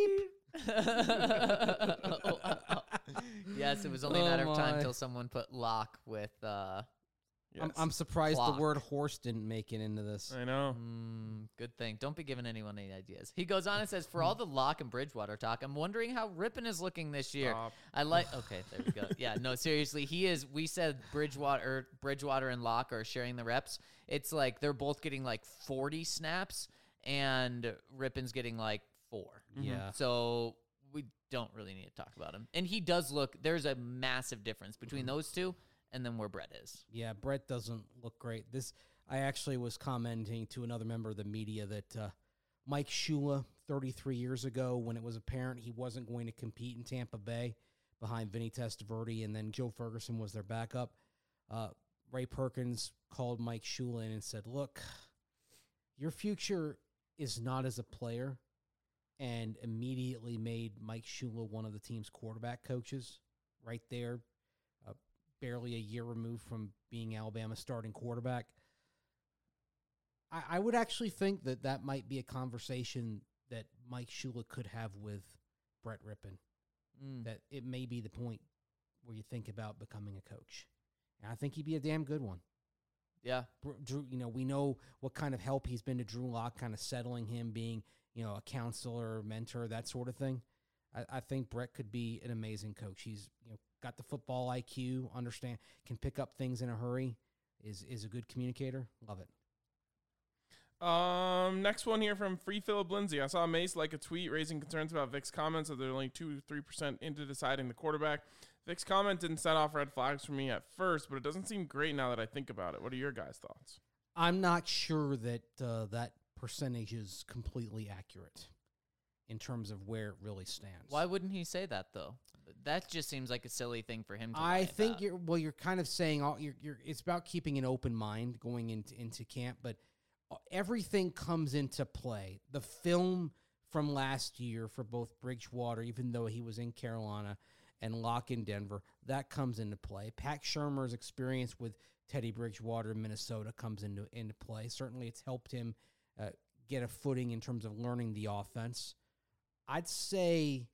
Yes, it was only a Oh matter of time my. till someone put lock with uh Yes. I'm, I'm surprised Clock. the word horse didn't make it into this. I know. mm, good thing. Don't be giving anyone any ideas. He goes on and says, for all the Locke and Bridgewater talk, I'm wondering how Rippon is looking this year. Stop. I like okay, there we go. Yeah, no, seriously, he is we said Bridgewater Bridgewater and Locke are sharing the reps. It's like they're both getting like forty snaps and Rippon's getting like four. Yeah. So we don't really need to talk about him. And he does look there's a massive difference between those two and then where Brett is. Yeah, Brett doesn't look great. This I actually was commenting to another member of the media that uh, Mike Shula, thirty-three years ago, when it was apparent he wasn't going to compete in Tampa Bay behind Vinny Testaverde, and then Joe Ferguson was their backup, uh, Ray Perkins called Mike Shula in and said, look, your future is not as a player, and immediately made Mike Shula one of the team's quarterback coaches right there, uh, barely a year removed from being Alabama's starting quarterback. I, I would actually think that that might be a conversation that Mike Shula could have with Brett Rippon, Mm. that it may be the point where you think about becoming a coach. And I think he'd be a damn good one. Yeah. Br- Drew, you know, we know what kind of help he's been to Drew Lock, kind of settling him, being, you know, a counselor, mentor, that sort of thing. I, I think Brett could be an amazing coach. He's, you know, got the football I Q, understand, can pick up things in a hurry, is is a good communicator. Love it. Um, next one here from Free Philip Lindsay. I saw Mace like a tweet raising concerns about Vic's comments that they're only two, three percent into deciding the quarterback. Vic's comment didn't set off red flags for me at first, but it doesn't seem great now that I think about it. What are your guys' thoughts? I'm not sure that uh, that percentage is completely accurate in terms of where it really stands. Why wouldn't he say that though? That just seems like a silly thing for him to I lie think about. you're well. You're kind of saying all you're. You're. It's about keeping an open mind going into into camp, but everything comes into play. The film from last year for both Bridgewater, even though he was in Carolina, and Locke in Denver, that comes into play. Pat Shermer's experience with Teddy Bridgewater in Minnesota comes into into play. Certainly, it's helped him uh, get a footing in terms of learning the offense. I'd say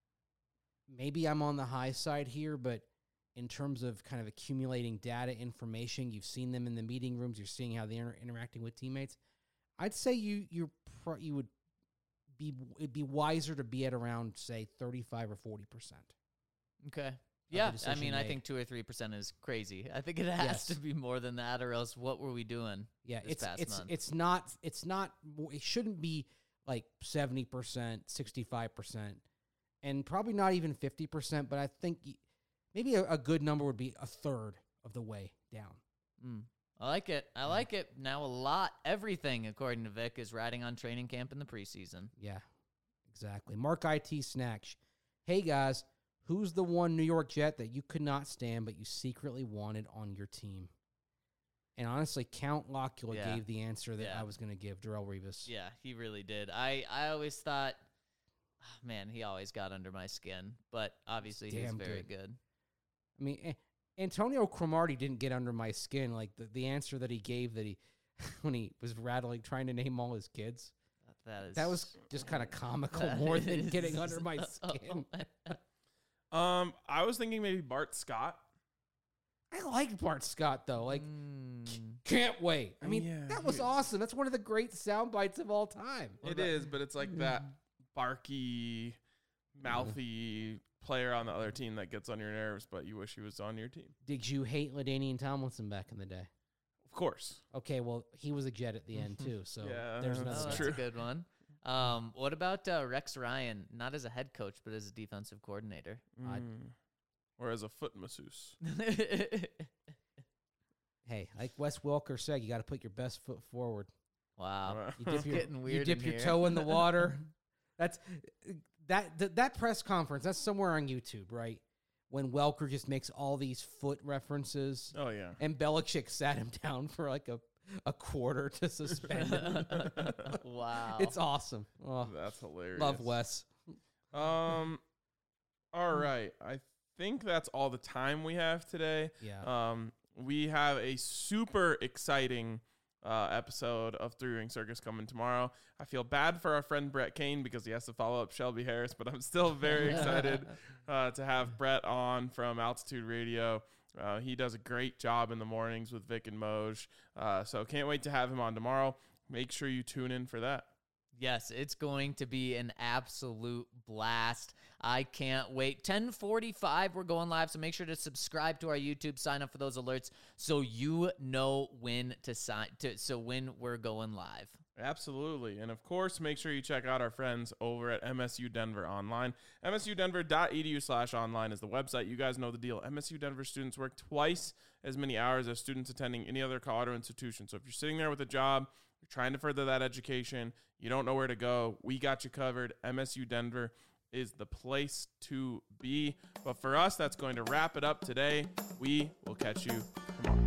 maybe I'm on the high side here, but in terms of kind of accumulating data, information, you've seen them in the meeting rooms, you're seeing how they're interacting with teammates. I'd say you you're pro- you would be it'd be wiser to be at around say thirty-five or forty percent. Okay. Yeah, I decision mean, I made. think two or three percent is crazy. I think it has Yes. to be more than that, or else what were we doing? Yeah, this it's past it's month? it's not it's not mo- it shouldn't be like seventy percent, sixty-five percent, and probably not even fifty percent. But I think y- maybe a, a good number would be a third of the way down. Mm. I like it. I like it. Now a lot, everything, according to Vic, is riding on training camp in the preseason. Yeah, exactly. Mark I T Snatch. Hey guys, who's the one New York Jet that you could not stand but you secretly wanted on your team? And honestly, Count Locula Yeah. gave the answer that Yeah. I was going to give, Darrelle Revis. Yeah, he really did. I, I always thought, oh, man, he always got under my skin, but obviously he's damn very good. good. I mean, eh, Antonio Cromartie didn't get under my skin. Like the, the answer that he gave that he when he was rattling, trying to name all his kids. That is That was just kind of comical that more than is- getting under my skin. Um, I was thinking maybe Bart Scott. I liked Bart Scott though. Like, Mm. can't wait. I mean, Yeah, that was he- awesome. That's one of the great sound bites of all time. It is, but it's like that barky, mouthy player on the other team that gets on your nerves, but you wish he was on your team. Did you hate LaDainian Tomlinson back in the day? Of course. Okay, well, he was a Jet at the end too. So Yeah, there's Oh, that's another that's guy. true. a good one. Um, what about uh, Rex Ryan? Not as a head coach, but as a defensive coordinator. I- Mm. Or as a foot masseuse. Hey, like Wes Welker said, you got to put your best foot forward. Wow, Uh, You dip your, getting you weird. dip in your here. toe in the water. That's that, that that press conference. That's somewhere on YouTube, right? When Welker just makes all these foot references, Oh, yeah. and Belichick sat him down for like a, a quarter to suspend him. Wow, It's awesome. Oh, That's hilarious. love Wes. Um, all right. I think that's all the time we have today. Yeah. Um, we have a super exciting uh, episode of Three Ring Circus coming tomorrow. I feel bad for our friend Brett Kane because he has to follow up Shelby Harris, but I'm still very excited uh, to have Brett on from Altitude Radio. Uh, he does a great job in the mornings with Vic and Moj. Uh, so can't wait to have him on tomorrow. Make sure you tune in for that. Yes, it's going to be an absolute blast. I can't wait. ten forty-five, we're going live, so make sure to subscribe to our YouTube, sign up for those alerts so you know when to sign to so when we're going live. Absolutely. And of course, make sure you check out our friends over at M S U Denver Online. M S U Denver dot E D U slash online is the website. You guys know the deal. M S U Denver students work twice as many hours as students attending any other Colorado institution. So if you're sitting there with a job, you're trying to further that education, you don't know where to go, we got you covered. M S U Denver is the place to be. But for us, that's going to wrap it up today. We will catch you tomorrow.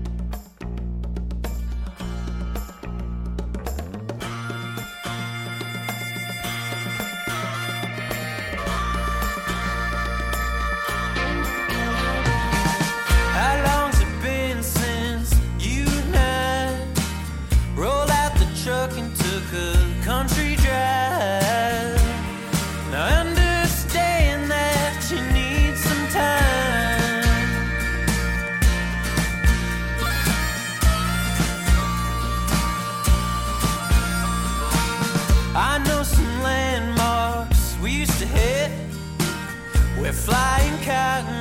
How long's it been since you and I rolled out the truck and took a country drive? Now I understand that you need some time. I know some landmarks we used to hit where flying cotton